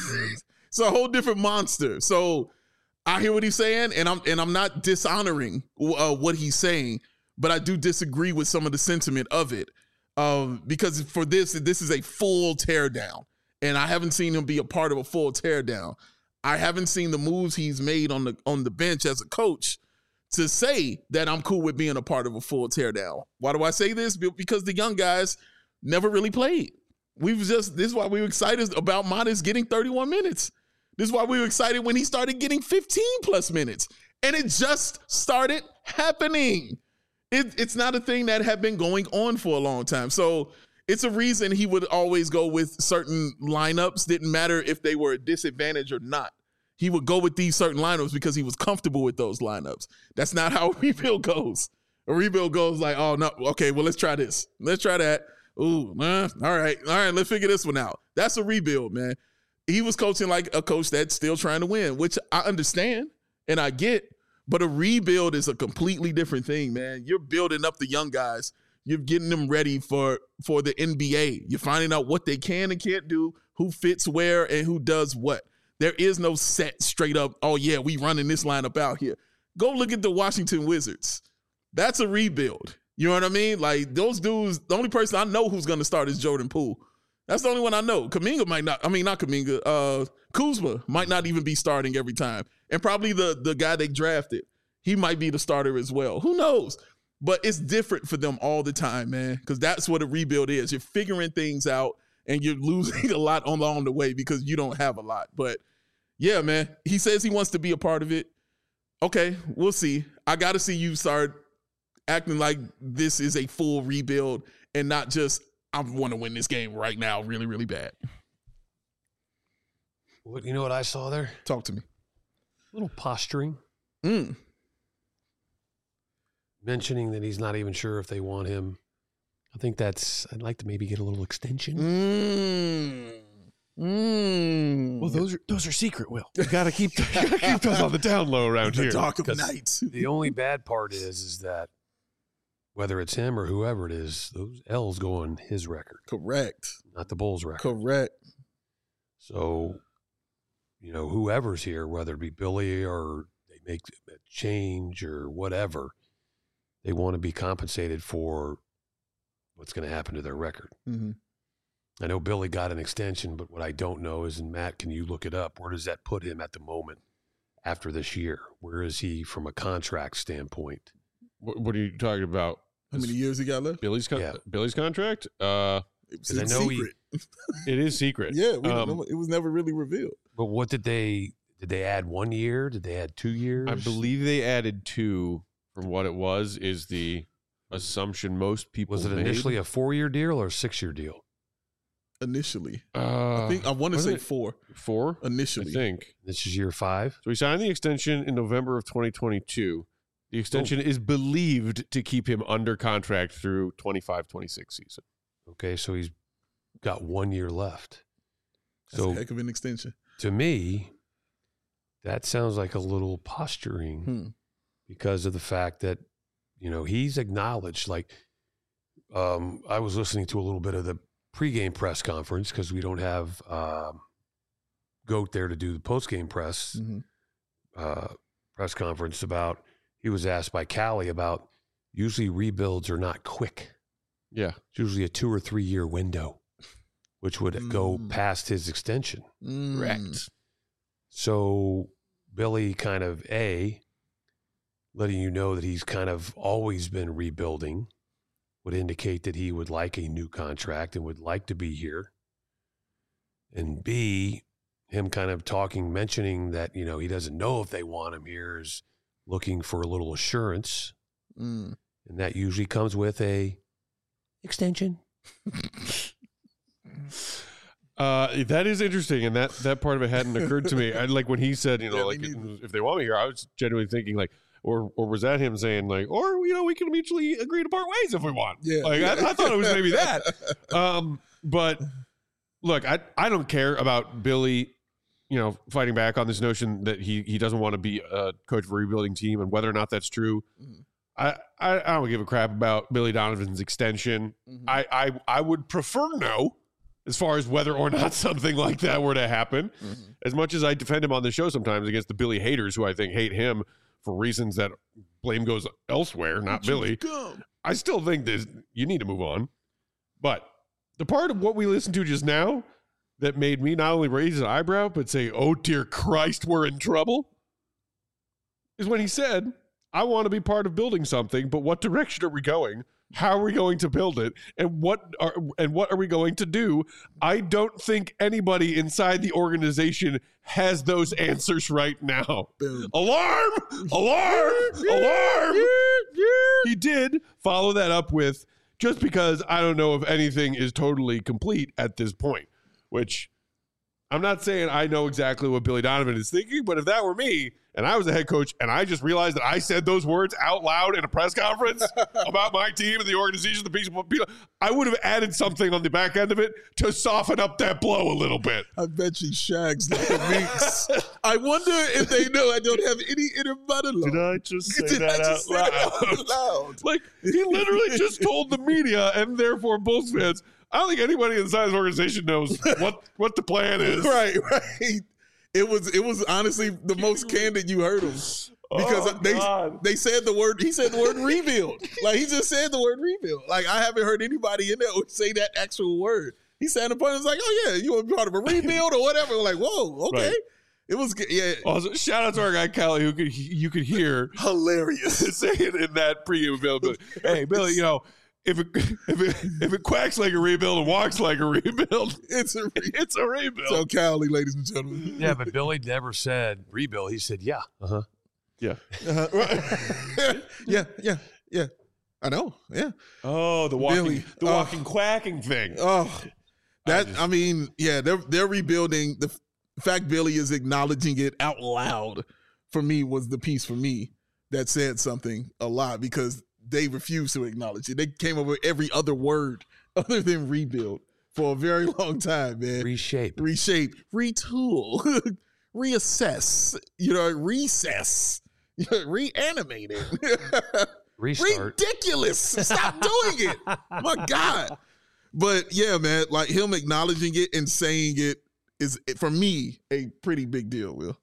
S3: it's a whole different monster. So I hear what he's saying, and I'm and I'm not dishonoring uh, what he's saying, but I do disagree with some of the sentiment of it. Um, because for this, this is a full teardown, and I haven't seen him be a part of a full teardown. I haven't seen the moves he's made on the on the bench as a coach to say that I'm cool with being a part of a full teardown. Why do I say this? Because the young guys never really played. We've just this is why we were excited about Modest getting thirty-one minutes. This is why we were excited when he started getting fifteen plus minutes, and it just started happening. It, it's not a thing that had been going on for a long time. So it's a reason he would always go with certain lineups. Didn't matter if they were a disadvantage or not. He would go with these certain lineups because he was comfortable with those lineups. That's not how a rebuild goes. A rebuild goes like, oh, no, okay, well, let's try this. Let's try that. Ooh, uh, all right, all right, let's figure this one out. That's a rebuild, man. He was coaching like a coach that's still trying to win, which I understand and I get. But a rebuild is a completely different thing, man. You're building up the young guys. You're getting them ready for, for the N B A. You're finding out what they can and can't do, who fits where, and who does what. There is no set straight up, oh, yeah, we running this lineup out here. Go look at the Washington Wizards. That's a rebuild. You know what I mean? Like, those dudes, the only person I know who's going to start is Jordan Poole. That's the only one I know. Kuminga might not. I mean, not Kuminga. Uh, Kuzma might not even be starting every time, and probably the the guy they drafted, he might be the starter as well. Who knows? But it's different for them all the time, man, because that's what a rebuild is. You're figuring things out, and you're losing a lot along the way because you don't have a lot. But yeah, man, he says he wants to be a part of it. Okay, we'll see. I got to see you start acting like this is a full rebuild and not just, I want to win this game right now really, really bad.
S4: What, you know what I saw there?
S3: Talk to me.
S4: A little posturing.
S3: Mm.
S4: Mentioning that he's not even sure if they want him. I think that's, I'd like to maybe get a little extension.
S3: Mm. Mm.
S1: Well, those are those are secret, Will. You gotta keep you gotta keep those on the down low around
S3: The
S1: here.
S3: dark of
S4: 'Cause
S3: night.
S4: The only bad part is, is that whether it's him or whoever it is, those L's go on his record,
S3: Correct.
S4: not the Bulls' record.
S3: Correct.
S4: So, you know, whoever's here, whether it be Billy or they make a change or whatever, they want to be compensated for what's going to happen to their record.
S3: Mm-hmm.
S4: I know Billy got an extension, but what I don't know is, and Matt, can you look it up? Where does that put him at the moment after this year? Where is he from a contract standpoint?
S1: What, what are you talking about?
S3: How many years he got left?
S1: Billy's con-
S4: Yeah.
S1: Billy's contract? Uh,
S3: It was
S4: 'Cause I
S3: in
S4: know he-
S3: secret.
S1: it is secret.
S3: Yeah, we
S1: Um,
S3: don't know. It was never really revealed.
S4: But what did they, did they add one year? Did they add two years?
S1: I believe they added two. From what it was, is the assumption most people
S4: Was it
S1: made.
S4: initially a four-year deal or a six-year deal?
S3: Initially,
S1: Uh,
S3: I think I want to
S1: wasn't
S3: say
S1: it
S3: four.
S1: four. I
S3: Initially,
S1: think.
S4: This is year five.
S1: So he signed the extension in November of twenty twenty-two. The extension is believed to keep him under contract through twenty-five twenty-six season.
S4: Okay, so he's got one year left.
S3: That's
S4: So
S3: a heck of an extension.
S4: to me, that sounds like a little posturing
S3: Hmm.
S4: because of the fact that, you know, he's acknowledged, like, um, I was listening to a little bit of the pregame press conference because we don't have um, Goat there to do the postgame press
S3: Mm-hmm.
S4: uh, press conference about, he was asked by Callie about usually rebuilds are not quick.
S1: Yeah.
S4: It's usually a two or three year window, which would go
S3: Mm.
S4: past his extension.
S3: Mm.
S1: Correct.
S4: So Billy kind of A, letting you know that he's kind of always been rebuilding, would indicate that he would like a new contract and would like to be here. And B, him kind of talking, mentioning that, you know, he doesn't know if they want him here, is looking for a little assurance.
S3: Mm.
S4: And that usually comes with a extension.
S1: Uh, that is interesting, and that, that part of it hadn't occurred to me. I, like when he said, you know,
S3: Yeah,
S1: like
S3: me neither.
S1: if they want me here, I was genuinely thinking like, or or was that him saying like, or you know, we can mutually agree to part ways if we want.
S3: Yeah.
S1: Like I, I thought it was maybe that. Um, but look, I I don't care about Billy, you know, fighting back on this notion that he he doesn't want to be a coach of a rebuilding team, and whether or not that's true.
S3: Mhm.
S1: I, I, I don't give a crap about Billy Donovan's extension.
S3: Mhm.
S1: I, I I would prefer no, as far as whether or not something like that were to happen.
S3: Mhm.
S1: As much as I defend him on the show sometimes against the Billy haters who I think hate him for reasons that blame goes elsewhere, not Billy.
S3: Come.
S1: I still think that you need to move on. But the part of what we listened to just now that made me not only raise an eyebrow, but say, oh, dear Christ, we're in trouble, is when he said, I want to be part of building something, but what direction are we going? How are we going to build it? And what are and what are we going to do? I don't think anybody inside the organization has those answers right now.
S3: Boom.
S1: Alarm! Alarm! Alarm! He did follow that up with, just because I don't know if anything is totally complete at this point, which I'm not saying I know exactly what Billy Donovan is thinking, but if that were me and I was a head coach and I just realized that I said those words out loud in a press conference about my team and the organization, the people, people, I would have added something on the back end of it to soften up that blow a little bit.
S3: I bet you shags like a minx. I wonder if they know I don't have any inner monologue.
S1: I just say
S3: Did
S1: that
S3: I just
S1: out
S3: say
S1: loud?
S3: that out loud?
S1: Like, he literally just told the media and therefore Bulls fans, I don't think anybody inside his organization knows what, what the plan is.
S3: Right, right. It was it was honestly the most candid you heard him. Because
S1: Oh,
S3: they
S1: God.
S3: they said the word he said the word rebuild. Like he just said the word rebuild. Like I haven't heard anybody in there say that actual word. he sat in the point and was like, oh, yeah, you want to be part of a rebuild or whatever. We're like, whoa, okay.
S1: Right.
S3: It was good. Yeah.
S1: Also, shout out to our guy Callie, who could you could hear
S3: Hilarious.
S1: saying in that pregame availability. Hey, Billy, you know, if it if it if it quacks like a rebuild and walks like a rebuild,
S3: It's a rebuild.
S1: it's a rebuild.
S3: So Cali, ladies and gentlemen.
S4: Yeah, but Billy never said rebuild. He said, yeah. Uh-huh.
S1: yeah.
S3: Uh-huh. Right. yeah, yeah, yeah. I know. Yeah.
S1: Oh, the walking
S3: Billy,
S1: the
S3: uh,
S1: walking quacking thing.
S3: Oh, that I,
S1: just-
S3: mean, yeah, they're they're rebuilding. The f- fact Billy is acknowledging it out loud for me was the piece for me that said something a lot because they refused to acknowledge it. They came up with every other word other than rebuild for a very long time, man.
S4: Reshape.
S3: Reshape, retool, reassess, you know, recess, you know, reanimate it.
S4: Restart.
S3: Ridiculous. Stop doing it. My God. But yeah, man, like him acknowledging it and saying it is, for me, a pretty big deal, Will.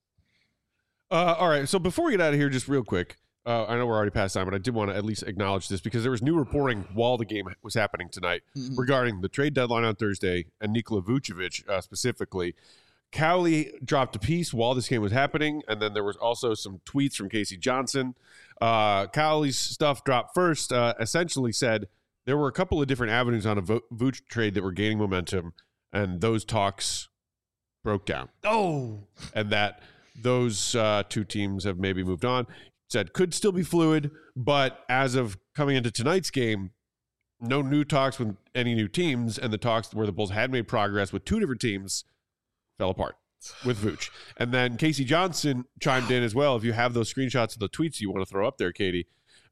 S1: Uh, all right. So before we get out of here, just real quick, uh, I know we're already past time, but I did want to at least acknowledge this because there was new reporting while the game was happening tonight
S3: Mhm.
S1: regarding the trade deadline on Thursday and Nikola Vucevic uh, specifically. Cowley dropped a piece while this game was happening, and then there was also some tweets from Casey Johnson. Uh, Cowley's stuff dropped first, uh, essentially said there were a couple of different avenues on a Vo- Vuce trade that were gaining momentum, and those talks broke down.
S4: Oh.
S1: And that those uh, two teams have maybe moved on. Said could still be fluid, but as of coming into tonight's game, no new talks with any new teams, and the talks where the Bulls had made progress with two different teams fell apart with Vooch. And then Casey Johnson chimed in as well. If you have those screenshots of the tweets you want to throw up there, Katie,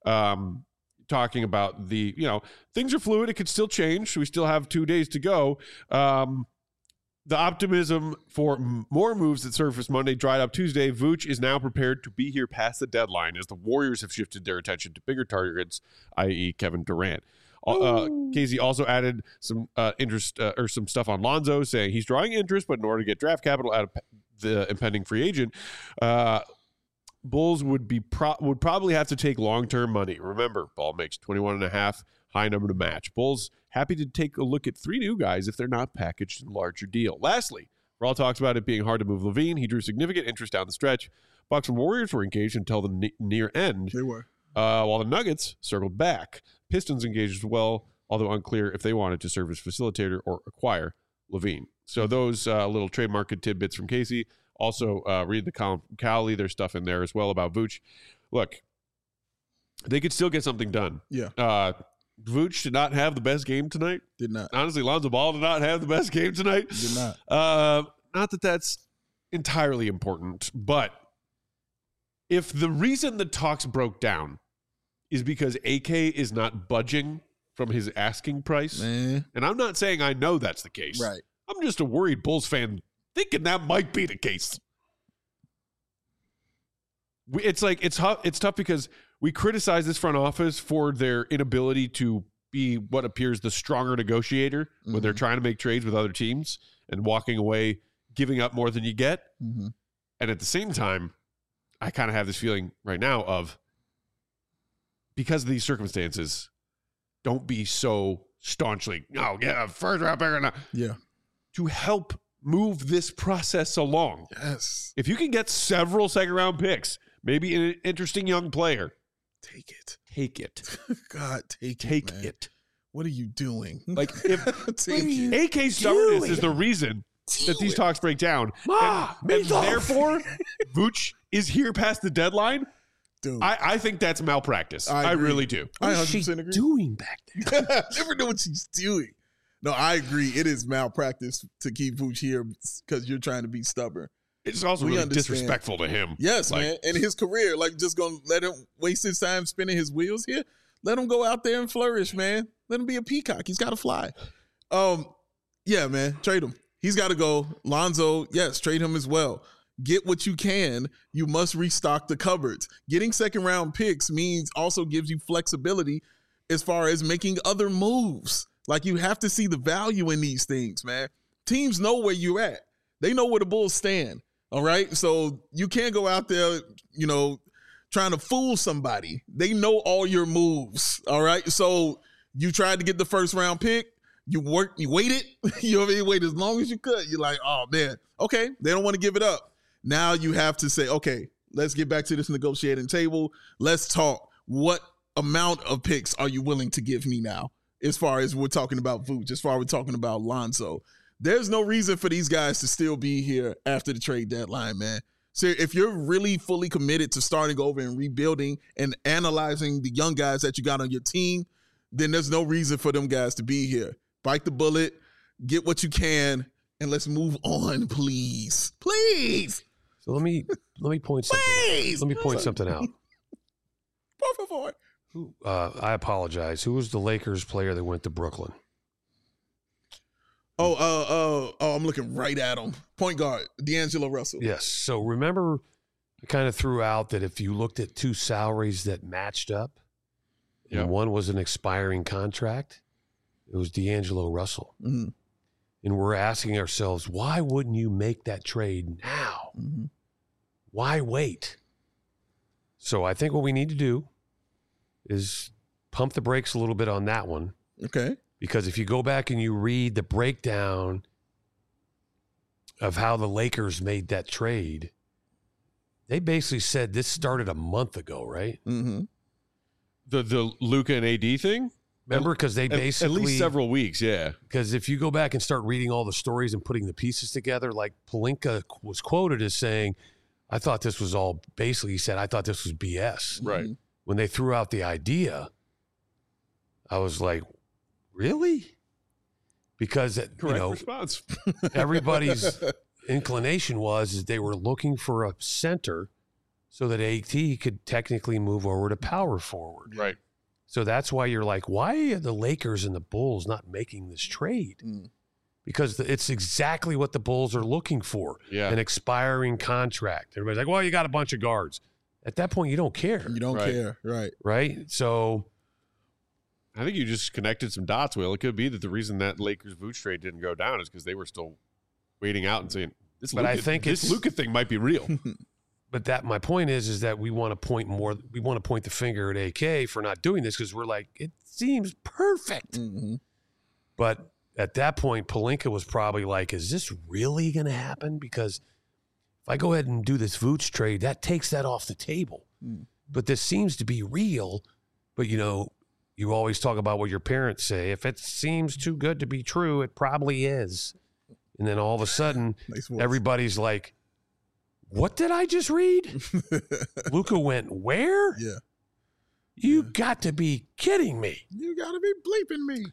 S1: um, talking about the, you know, things are fluid. It could still change. We still have two days to go. Um, the optimism for m- more moves that surfaced Monday dried up Tuesday. Vooch is now prepared to be here past the deadline as the Warriors have shifted their attention to bigger targets, that is. Kevin Durant. Uh, Casey also added some uh, interest uh, or some stuff on Lonzo, saying he's drawing interest, but in order to get draft capital out of the impending free agent, uh, Bulls would be pro- would probably have to take long term money. Remember, Ball makes twenty-one and a half, high number to match. Bulls happy to take a look at three new guys if they're not packaged in a larger deal. Lastly, Raul talks about it being hard to move Levine. He drew significant interest down the stretch. Bucks and Warriors were engaged until the ne- near end.
S3: They were.
S1: Uh, while the Nuggets circled back. Pistons engaged as well, although unclear if they wanted to serve as facilitator or acquire Levine. So those uh, little trade market tidbits from Casey. Also, uh, read the column from Cowley. There's stuff in there as well about Vooch. Look, they could still get something done.
S3: Yeah.
S1: Uh, Vooch did not have the best game tonight.
S3: Did not.
S1: Honestly, Lonzo Ball did not have the best game tonight.
S3: Did not.
S1: Uh, not that that's entirely important, but if the reason the talks broke down is because A K is not budging from his asking price,
S3: Man.
S1: and I'm not saying I know that's the case.
S3: Right.
S1: I'm just a worried Bulls fan thinking that might be the case. We, it's like it's tough. It's tough because we criticize this front office for their inability to be what appears the stronger negotiator when
S3: Mm-hmm.
S1: they're trying to make trades with other teams and walking away, giving up more than you get.
S3: Mm-hmm.
S1: And at the same time, I kind of have this feeling right now of, because of these circumstances, don't be so staunchly, no, get a first round pick or not.
S3: Yeah.
S1: To help move this process along.
S3: Yes.
S1: If you can get several second round picks, maybe an interesting young player,
S3: Take it.
S1: take it.
S3: God, take,
S1: Take
S3: it. man.
S1: it.
S3: What are you doing?
S1: Like, if
S3: take it.
S1: A K's stubbornness is the reason that these talks break down,
S4: Ma,
S1: and, and
S4: meatloaf.
S1: therefore, Vooch is here past the deadline,
S3: Dude.
S1: I, I think that's malpractice.
S3: I
S1: I,
S3: agree.
S1: really do.
S3: I
S4: What is
S3: one hundred
S4: she
S3: percent agree.
S4: doing back there?
S3: Never know what she's doing. No, I agree. It is malpractice to keep Vooch here because you're trying to be stubborn.
S1: It's also
S3: We
S1: really
S3: understand.
S1: disrespectful to him.
S3: Yes,
S1: Like,
S3: man. And his career, like, just gonna let him waste his time spinning his wheels here. Let him go out there and flourish, man. Let him be a peacock. He's got to fly. Um, yeah, man. Trade him. He's got to go. Lonzo, yes, trade him as well. Get what you can. You must restock the cupboards. Getting second round picks means also gives you flexibility as far as making other moves. Like, you have to see the value in these things, man. Teams know where you're at. They know where the Bulls stand. All right. So you can't go out there, you know, trying to fool somebody. They know all your moves. All right. So you tried to get the first round pick. You work, you waited, you know what I mean? Wait as long as you could. You're like, oh man, okay, they don't want to give it up. Now you have to say, okay, let's get back to this negotiating table. Let's talk. What amount of picks are you willing to give me now? As far as we're talking about Vooch, as far as we're talking about Lonzo. There's no reason for these guys to still be here after the trade deadline, man. So if you're really fully committed to starting over and rebuilding and analyzing the young guys that you got on your team, then there's no reason for them guys to be here. Bite the bullet, get what you can, and let's move on, please. Please.
S4: So let me let me point something.
S3: Please.
S4: Let me point something out.
S3: Por favor.
S4: Uh, I apologize. Who was the Lakers player that went to Brooklyn?
S3: Oh, uh, uh, oh, I'm looking right at him. Point guard, D'Angelo Russell.
S4: Yes. So remember, I kind of threw out that if you looked at two salaries that matched up,
S1: Yep.
S4: and one was an expiring contract, it was D'Angelo Russell.
S3: Mm-hmm.
S4: And we're asking ourselves, why wouldn't you make that trade now?
S3: Mm-hmm.
S4: Why wait? So I think what we need to do is pump the brakes a little bit on that one.
S3: Okay.
S4: Because if you go back and you read the breakdown of how the Lakers made that trade, they basically said this started a month ago, right?
S3: Mm-hmm.
S1: The the Luka and A D thing?
S4: Remember? Because they
S1: At-
S4: basically
S1: At least several weeks, yeah.
S4: Because if you go back and start reading all the stories and putting the pieces together, like Pelinka was quoted as saying, I thought this was all, basically he said, I thought this was B S.
S1: Right.
S4: When they threw out the idea, I was like, really? Because, you
S1: Correct
S4: know,
S1: response.
S4: everybody's inclination was is they were looking for a center so that A T could technically move over to power forward.
S1: Right.
S4: So that's why you're like, why are the Lakers and the Bulls not making this trade?
S3: Mm.
S4: Because it's exactly what the Bulls are looking for.
S1: Yeah.
S4: An expiring contract. Everybody's like, well, you got a bunch of guards. At that point, you don't care,
S3: You don't
S1: Right.
S3: care. Right.
S4: right? So
S1: I think you just connected some dots, Will. It could be that the reason that Lakers Vooch trade didn't go down is because they were still waiting out and saying, this
S4: But
S1: Luka,
S4: I think
S1: this
S4: it's-
S1: Luka thing might be real.
S4: but that my point is, is that we want to point more, we want to point the finger at A K for not doing this because we're like, it seems perfect.
S3: Mm-hmm.
S4: But at that point, Pelinka was probably like, is this really going to happen? Because if I go ahead and do this Vooch trade, that takes that off the table.
S3: Mm.
S4: But this seems to be real. But, you know, you always talk about what your parents say. If it seems too good to be true, it probably is. And then all of a sudden,
S3: Nice voice.
S4: everybody's like, what did I just read? Luka went where?
S3: Yeah.
S4: You got to be kidding me.
S3: You gotta be bleeping me.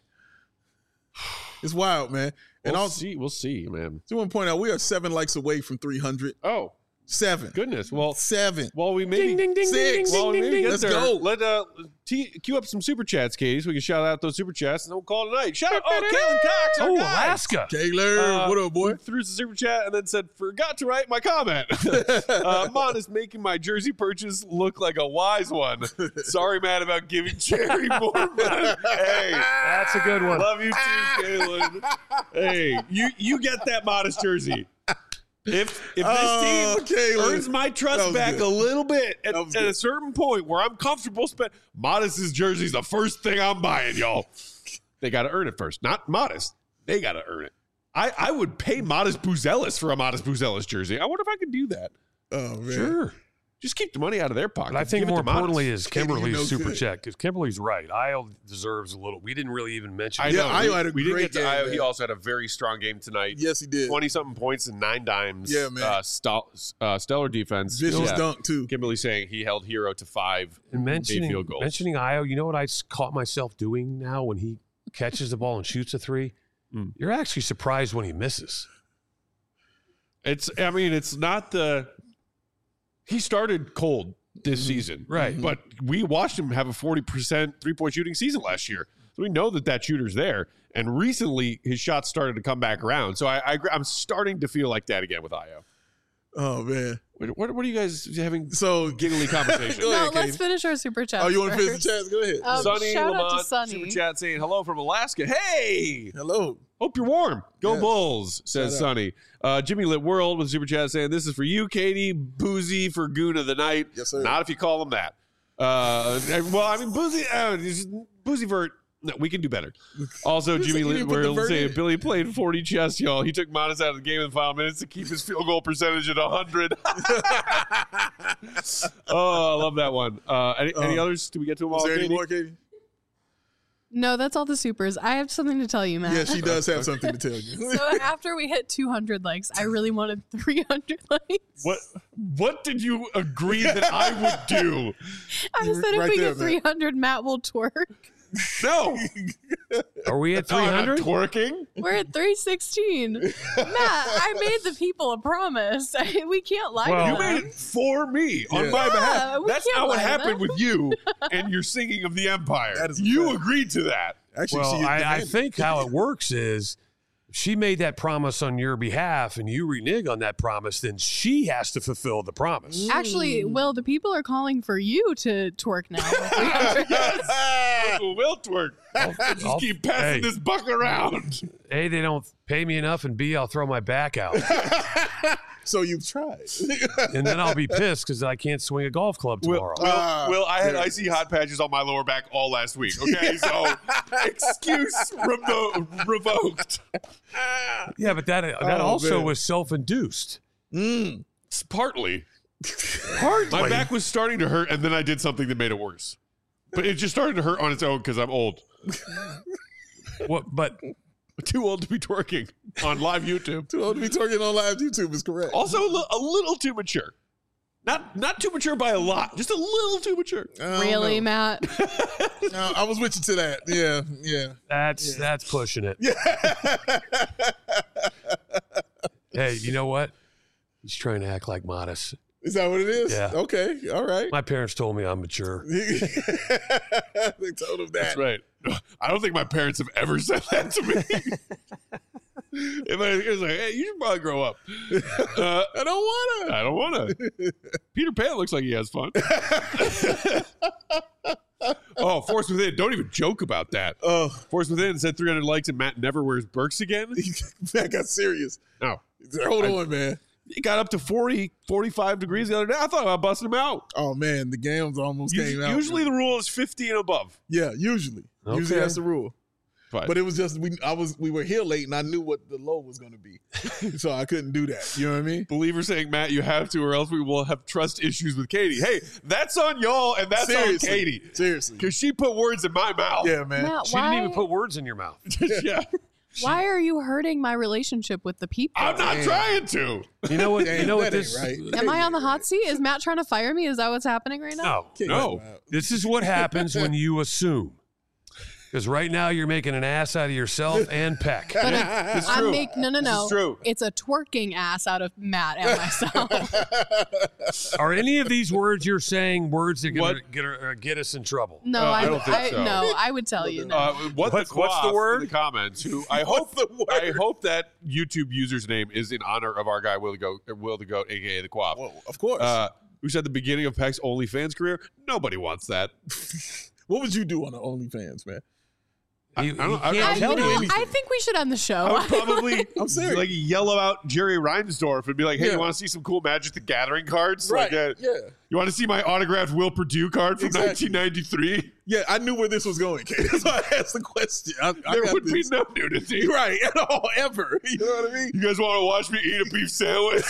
S3: It's wild, man. And
S1: we'll
S3: also,
S1: see. We'll see, man.
S3: I want to point out we are seven likes away from three hundred.
S1: Oh,
S3: Seven.
S1: goodness. Well,
S3: Seven.
S1: while we maybe
S4: Ding, ding, ding, ding,
S3: Six.
S4: ding,
S1: Well,
S4: ding,
S1: maybe
S4: ding,
S1: get
S3: Let's
S1: there.
S3: go.
S1: Let uh, t- queue up some super chats, Katie, so we can shout out those super chats, and then we'll call it a night. Shout out, oh, Kalen Cox, our
S4: Oh,
S1: guy.
S4: Alaska.
S3: Taylor,
S1: Uh,
S3: what up, boy?
S1: who Threw some super chat and then said, "Forgot to write my comment." uh, Mon is making my jersey purchase look like a wise one. Sorry, man, about giving Jerry more money. Hey,
S4: That's a good one.
S1: love you too, Kalen. Hey, you you get that Modest jersey. If if this
S3: Oh,
S1: team
S3: Kalen.
S1: earns my
S3: That
S1: trust
S3: was
S1: back
S3: good.
S1: a little bit at,
S3: That was
S1: at a
S3: good.
S1: certain point where I'm comfortable spend Modest's jersey's the first thing I'm buying, y'all. They got to earn it first, not Modest. They got to earn it. I, I would pay Modest Buzelis for a Modest Buzelis jersey. I wonder if I could do that.
S3: Oh, man.
S4: Sure.
S1: Just keep the money out of their pocket.
S4: But I think
S1: Give it
S4: more
S1: to Modest.
S4: importantly is
S3: Katie, you
S4: Kimberly's
S3: know
S4: super
S3: good.
S4: chat because Kimberly's right. Io deserves a little. We didn't really even mention.
S1: I
S4: it.
S3: Yeah,
S1: know.
S3: Io
S1: we,
S3: had a
S1: we didn't
S3: great
S1: get to
S3: game,
S1: Io.
S3: man.
S1: He also had a very strong game tonight.
S3: Yes, he did.
S1: twenty-something points and nine dimes.
S3: Yeah, man.
S1: Uh, stel- uh, stellar defense.
S3: Vicious
S1: Yeah.
S3: dunk, too.
S1: Kimberly saying he held Hero to five
S4: And mentioning
S1: field goals.
S4: mentioning Io, you know what I s- caught myself doing now when he catches the ball and shoots a three?
S1: Mm.
S4: You're actually surprised when he misses.
S1: It's, I mean, it's not the, he started cold this season.
S4: Right.
S1: But we watched him have a forty percent three-point shooting season last year. So we know that that shooter's there. And recently, his shots started to come back around. So I, I, agree- I'm starting to feel like that again with Io.
S3: Oh, man.
S1: What, what, what are you guys having
S3: So,
S1: giggly conversation?
S3: Go
S2: No,
S3: ahead,
S2: let's
S3: Katie.
S2: finish our super chat.
S3: Oh, you want to finish the chats? Go ahead.
S2: Um,
S1: Sonny
S2: shout out to
S1: Lamont,
S2: Sonny.
S1: super chat saying hello from Alaska. Hey,
S3: Hello.
S1: hope you're warm. Go
S3: Yes.
S1: Bulls, says
S3: Shout out.
S1: Sonny. Uh, Jimmy Lit World with super chat saying this is for you, Katie. Boozy for Goon of the Night.
S3: Yes, sir.
S1: Not if you call him that. Uh, well, I mean, Boozy, uh, he's- Boozy Vert No, we can do better. Also,
S3: You
S1: Jimmy
S3: said you
S1: Lee,
S3: didn't put
S1: we're
S3: the vert
S1: saying
S3: in.
S1: Billy played forty chess, y'all. He took Modest out of the game in the final minutes to keep his field goal percentage at one hundred. Oh, I love that one. Uh, any, any
S3: Uh,
S1: others? Do we get to them all?
S3: Is there any
S1: Katie?
S3: more, Katie?
S2: No, that's all the supers. I have something to tell you, Matt.
S3: Yeah, she does have something to tell you.
S2: So after we hit two hundred likes, I really wanted three hundred likes.
S1: What What did you agree that I would do?
S2: I said if
S3: Right
S2: we
S3: there,
S2: get three hundred, Matt will twerk.
S1: No.
S4: Are we at
S1: No,
S4: three
S1: I'm not
S4: hundred?
S1: twerking.
S2: We're at three sixteen. Matt, I made the people a promise. we can't lie
S4: Well-
S2: to
S1: You
S2: them.
S1: made it for me on
S3: Yeah.
S1: my
S2: Yeah,
S1: behalf.
S2: we
S1: That's
S2: can't
S1: not what
S2: lie to
S1: happened
S2: them.
S1: with you and your singing of the Empire.
S3: That is a
S1: You
S3: fact.
S1: agreed to that.
S3: Actually,
S4: Well,
S3: she
S4: I, I
S3: demanded.
S4: think how it works is she made that promise on your behalf and you renege on that promise, then she has to fulfill the promise.
S2: Actually, Will, the people are calling for you to twerk now.
S1: Uncle Will twerk. Just
S4: I'll-
S1: keep passing
S4: hey.
S1: this buck around.
S4: A, they don't pay me enough, and B, I'll throw my back out.
S3: So you've tried.
S4: And then I'll be pissed because I can't swing a golf club tomorrow.
S1: Will,
S3: Ah,
S1: Will, I had
S3: there it
S1: icy hot patches on my lower back all last week. Okay, so excuse revo- revoked.
S4: Yeah, but that that
S3: Oh,
S4: also
S3: man.
S4: was self-induced.
S3: Mm.
S1: It's partly.
S4: Partly.
S1: My back was starting to hurt, and then I did something that made it worse. But it just started to hurt on its own because I'm old.
S4: What, but
S1: Too old to be twerking on live YouTube.
S3: Too old to be twerking on live YouTube is correct.
S1: Also, a li- a little too mature. Not not too mature by a lot, just a little too mature.
S3: I don't
S2: Really,
S3: know.
S2: Matt?
S3: No, I was with you to that. Yeah, yeah.
S4: that's that's pushing it. Hey, you know what? He's trying to act like modest.
S3: Is that what it is?
S4: Yeah.
S3: Okay. All right.
S4: My parents told me I'm mature.
S3: They told him that.
S1: That's right. I don't think my parents have ever said that to me. If I was like, hey, you should probably grow up. Uh,
S3: I don't want to.
S1: I don't want to. Peter Pan looks like he has fun. Oh, Force Within. Don't even joke about that.
S3: Oh,
S1: Force Within said three hundred likes and Matt never wears Birks again.
S3: that got serious.
S1: No.
S3: Hold
S1: I-
S3: on, man.
S1: It got up to forty, forty-five degrees the other day. I thought about busting him out.
S3: Oh man, the games almost
S1: Us-
S3: came out.
S1: Usually the rule is fifty and above.
S3: yeah, usually, usually
S4: Okay.
S3: that's the rule.
S1: But,
S3: But it was just we. I was we were here late, and I knew what the low was going to be, so I couldn't do that. You know what I mean?
S1: Believer saying, Matt, you have to, or else we will have trust issues with Katie. Hey, that's on y'all, and that's
S3: Seriously.
S1: on Katie.
S3: Seriously.
S1: Because she put words in my mouth.
S3: Yeah, man.
S2: Matt,
S4: She
S2: why,
S4: didn't even put words in your mouth.
S1: Yeah.
S2: why are you hurting my relationship with the people?
S1: I'm not
S3: Damn.
S1: trying to.
S4: You know what?
S3: Damn,
S4: you know what
S3: that ain't
S4: this?
S3: right.
S2: Am I on the hot seat? Is Matt trying to fire me? Is that what's happening right now?
S4: No,
S3: Kick
S1: No.
S3: him out.
S4: this is what happens when you assume. Because right now you're making an ass out of yourself and Peck.
S2: But it,
S1: It's
S2: I
S1: true.
S2: make no, no,
S1: This
S2: no.
S1: is true.
S2: It's a twerking ass out of Matt and myself.
S4: Are any of these words you're saying words that are going to
S1: What?
S4: get, uh, get us in trouble?
S2: No,
S1: Uh, I
S2: I,
S1: don't think
S2: I
S1: so.
S2: no, I would tell you no.
S1: Uh, what
S4: What-
S1: the
S4: what's the
S1: quaff
S4: word?
S1: in the comments? Who I hope
S3: the word?
S1: I hope that YouTube user's name is in honor of our guy Will the Goat, Will the Goat, aka the Quaff.
S3: Well, of course.
S1: Uh, who said the beginning of Peck's OnlyFans career? Nobody wants that.
S3: what would you do on the OnlyFans, man?
S4: You,
S1: I don't-
S4: you
S1: I-
S4: can't
S2: I,
S1: I'll
S4: tell
S2: you
S1: do
S2: know,
S4: me.
S3: anything.
S2: I think we should end the show.
S1: I would probably
S3: I'm serious.
S1: like yell out Jerry Reinsdorf and be like, "Hey,
S3: Yeah.
S1: you want to see some cool Magic the Gathering cards?
S3: Right.
S1: Like, uh,
S3: yeah.
S1: you want to see my autographed Will Purdue card from
S3: Exactly.
S1: nineteen ninety-three?
S3: Yeah, I knew where this was going, Kate. That's why I asked the question. I, I
S1: There
S3: got
S1: would be
S3: this.
S1: no nudity.
S3: Right, at all, ever. You know what I mean?
S1: You guys want to watch me eat a beef sandwich?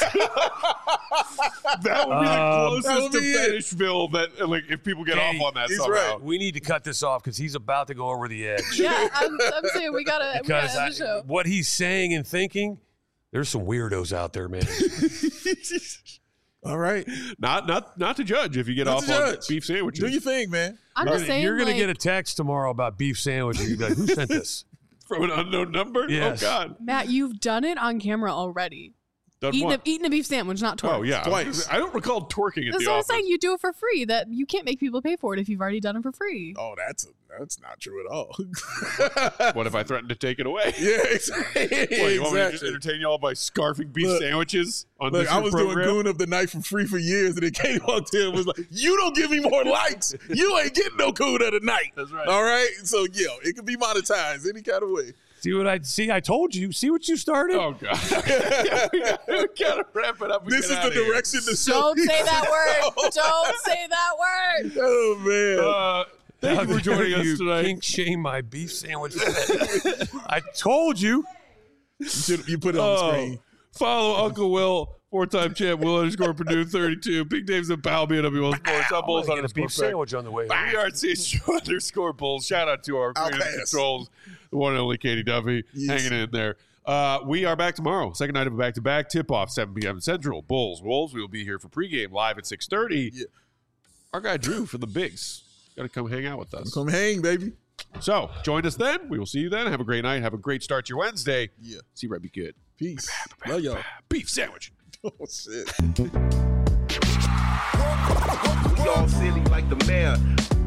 S1: That would be the
S4: Um,
S1: closest
S3: that would
S1: to
S3: be it.
S1: Fetishville that, like, if people get
S4: Katie,
S1: off on that
S3: he's
S1: somehow.
S3: right.
S4: We need to cut this off because he's about to go over the edge.
S2: yeah, I'm, I'm saying we gotta, we
S4: Because
S2: gotta
S4: I-
S2: end the show.
S4: what he's saying and thinking, there's some weirdos out there, man.
S3: All right.
S1: Not, not, not to judge if you get
S3: Not
S1: off
S3: to
S1: on
S3: judge.
S1: beef sandwiches.
S3: Do your thing, man.
S2: I'm
S4: You're
S2: just saying,
S4: You're gonna
S2: like,
S4: get a text tomorrow about beef sandwiches. You're gonna be like, who sent this?
S1: From an unknown number?
S4: Yes.
S1: Oh, God.
S2: Matt, you've done it on camera already.
S1: Done
S2: Eating a,
S1: what?
S2: eating a beef sandwich, not twerk.
S1: Oh, yeah.
S3: Twice.
S1: I don't recall twerking at
S2: That's
S1: the
S2: what I'm
S1: office.
S2: saying. You do it for free. That you can't make people pay for it if you've already done it for free.
S3: Oh, that's a, that's not true at all.
S1: What if I threatened to take it away?
S3: yeah, exactly.
S1: What, you want me to just
S3: exactly.
S1: entertain y'all by scarfing beef
S3: Look,
S1: sandwiches on
S3: Look,
S1: this
S3: I
S1: your
S3: was
S1: program?
S3: doing Goon of the Night for free for years, and then Katie walked in and was like, "You don't give me more likes. You ain't getting no Goon of the Night."
S1: That's right.
S3: All right. So yeah, it can be monetized any kind of way.
S4: See what I see? I told you. See what you started?
S1: Oh, God. Yeah, we, gotta, we gotta wrap it up. and
S3: This
S1: get
S3: is the
S1: outta here.
S3: direction the show.
S2: Don't say that word. Don't say that word.
S3: Oh man.
S1: Uh, Thank you for joining us
S4: you
S1: tonight.
S4: Kink shame my beef sandwich. I told you.
S3: You, should, you put it on the
S1: Oh,
S3: screen.
S1: follow Uncle Will, four-time champ, Will underscore Purdue thirty-two. Big Dave's at Pal, B N W Will Sports. I'm
S4: I'm
S1: Bulls
S4: gonna get a
S1: underscore
S4: beef
S1: Craig.
S4: sandwich on the way.
S1: We are C H underscore Bulls. Shout out to our
S3: I'll
S1: creative
S3: pass.
S1: controls, the one and only Katie Duffy,
S3: Yes.
S1: hanging in there. Uh, we are back tomorrow. Second night of a back-to-back tip-off, seven p.m. Central. Bulls, Wolves. We will be here for pregame live at six thirty.
S3: Yeah.
S1: Our guy Drew for the Bigs. Got to come hang out with us.
S3: Come hang, baby.
S1: So join us then. We will see you then. Have a great night. Have a great start to your Wednesday.
S3: Yeah.
S1: See Red be good.
S3: Peace. Love y'all.
S1: Beef sandwich.
S3: Oh, shit.
S7: We all silly like the mayor.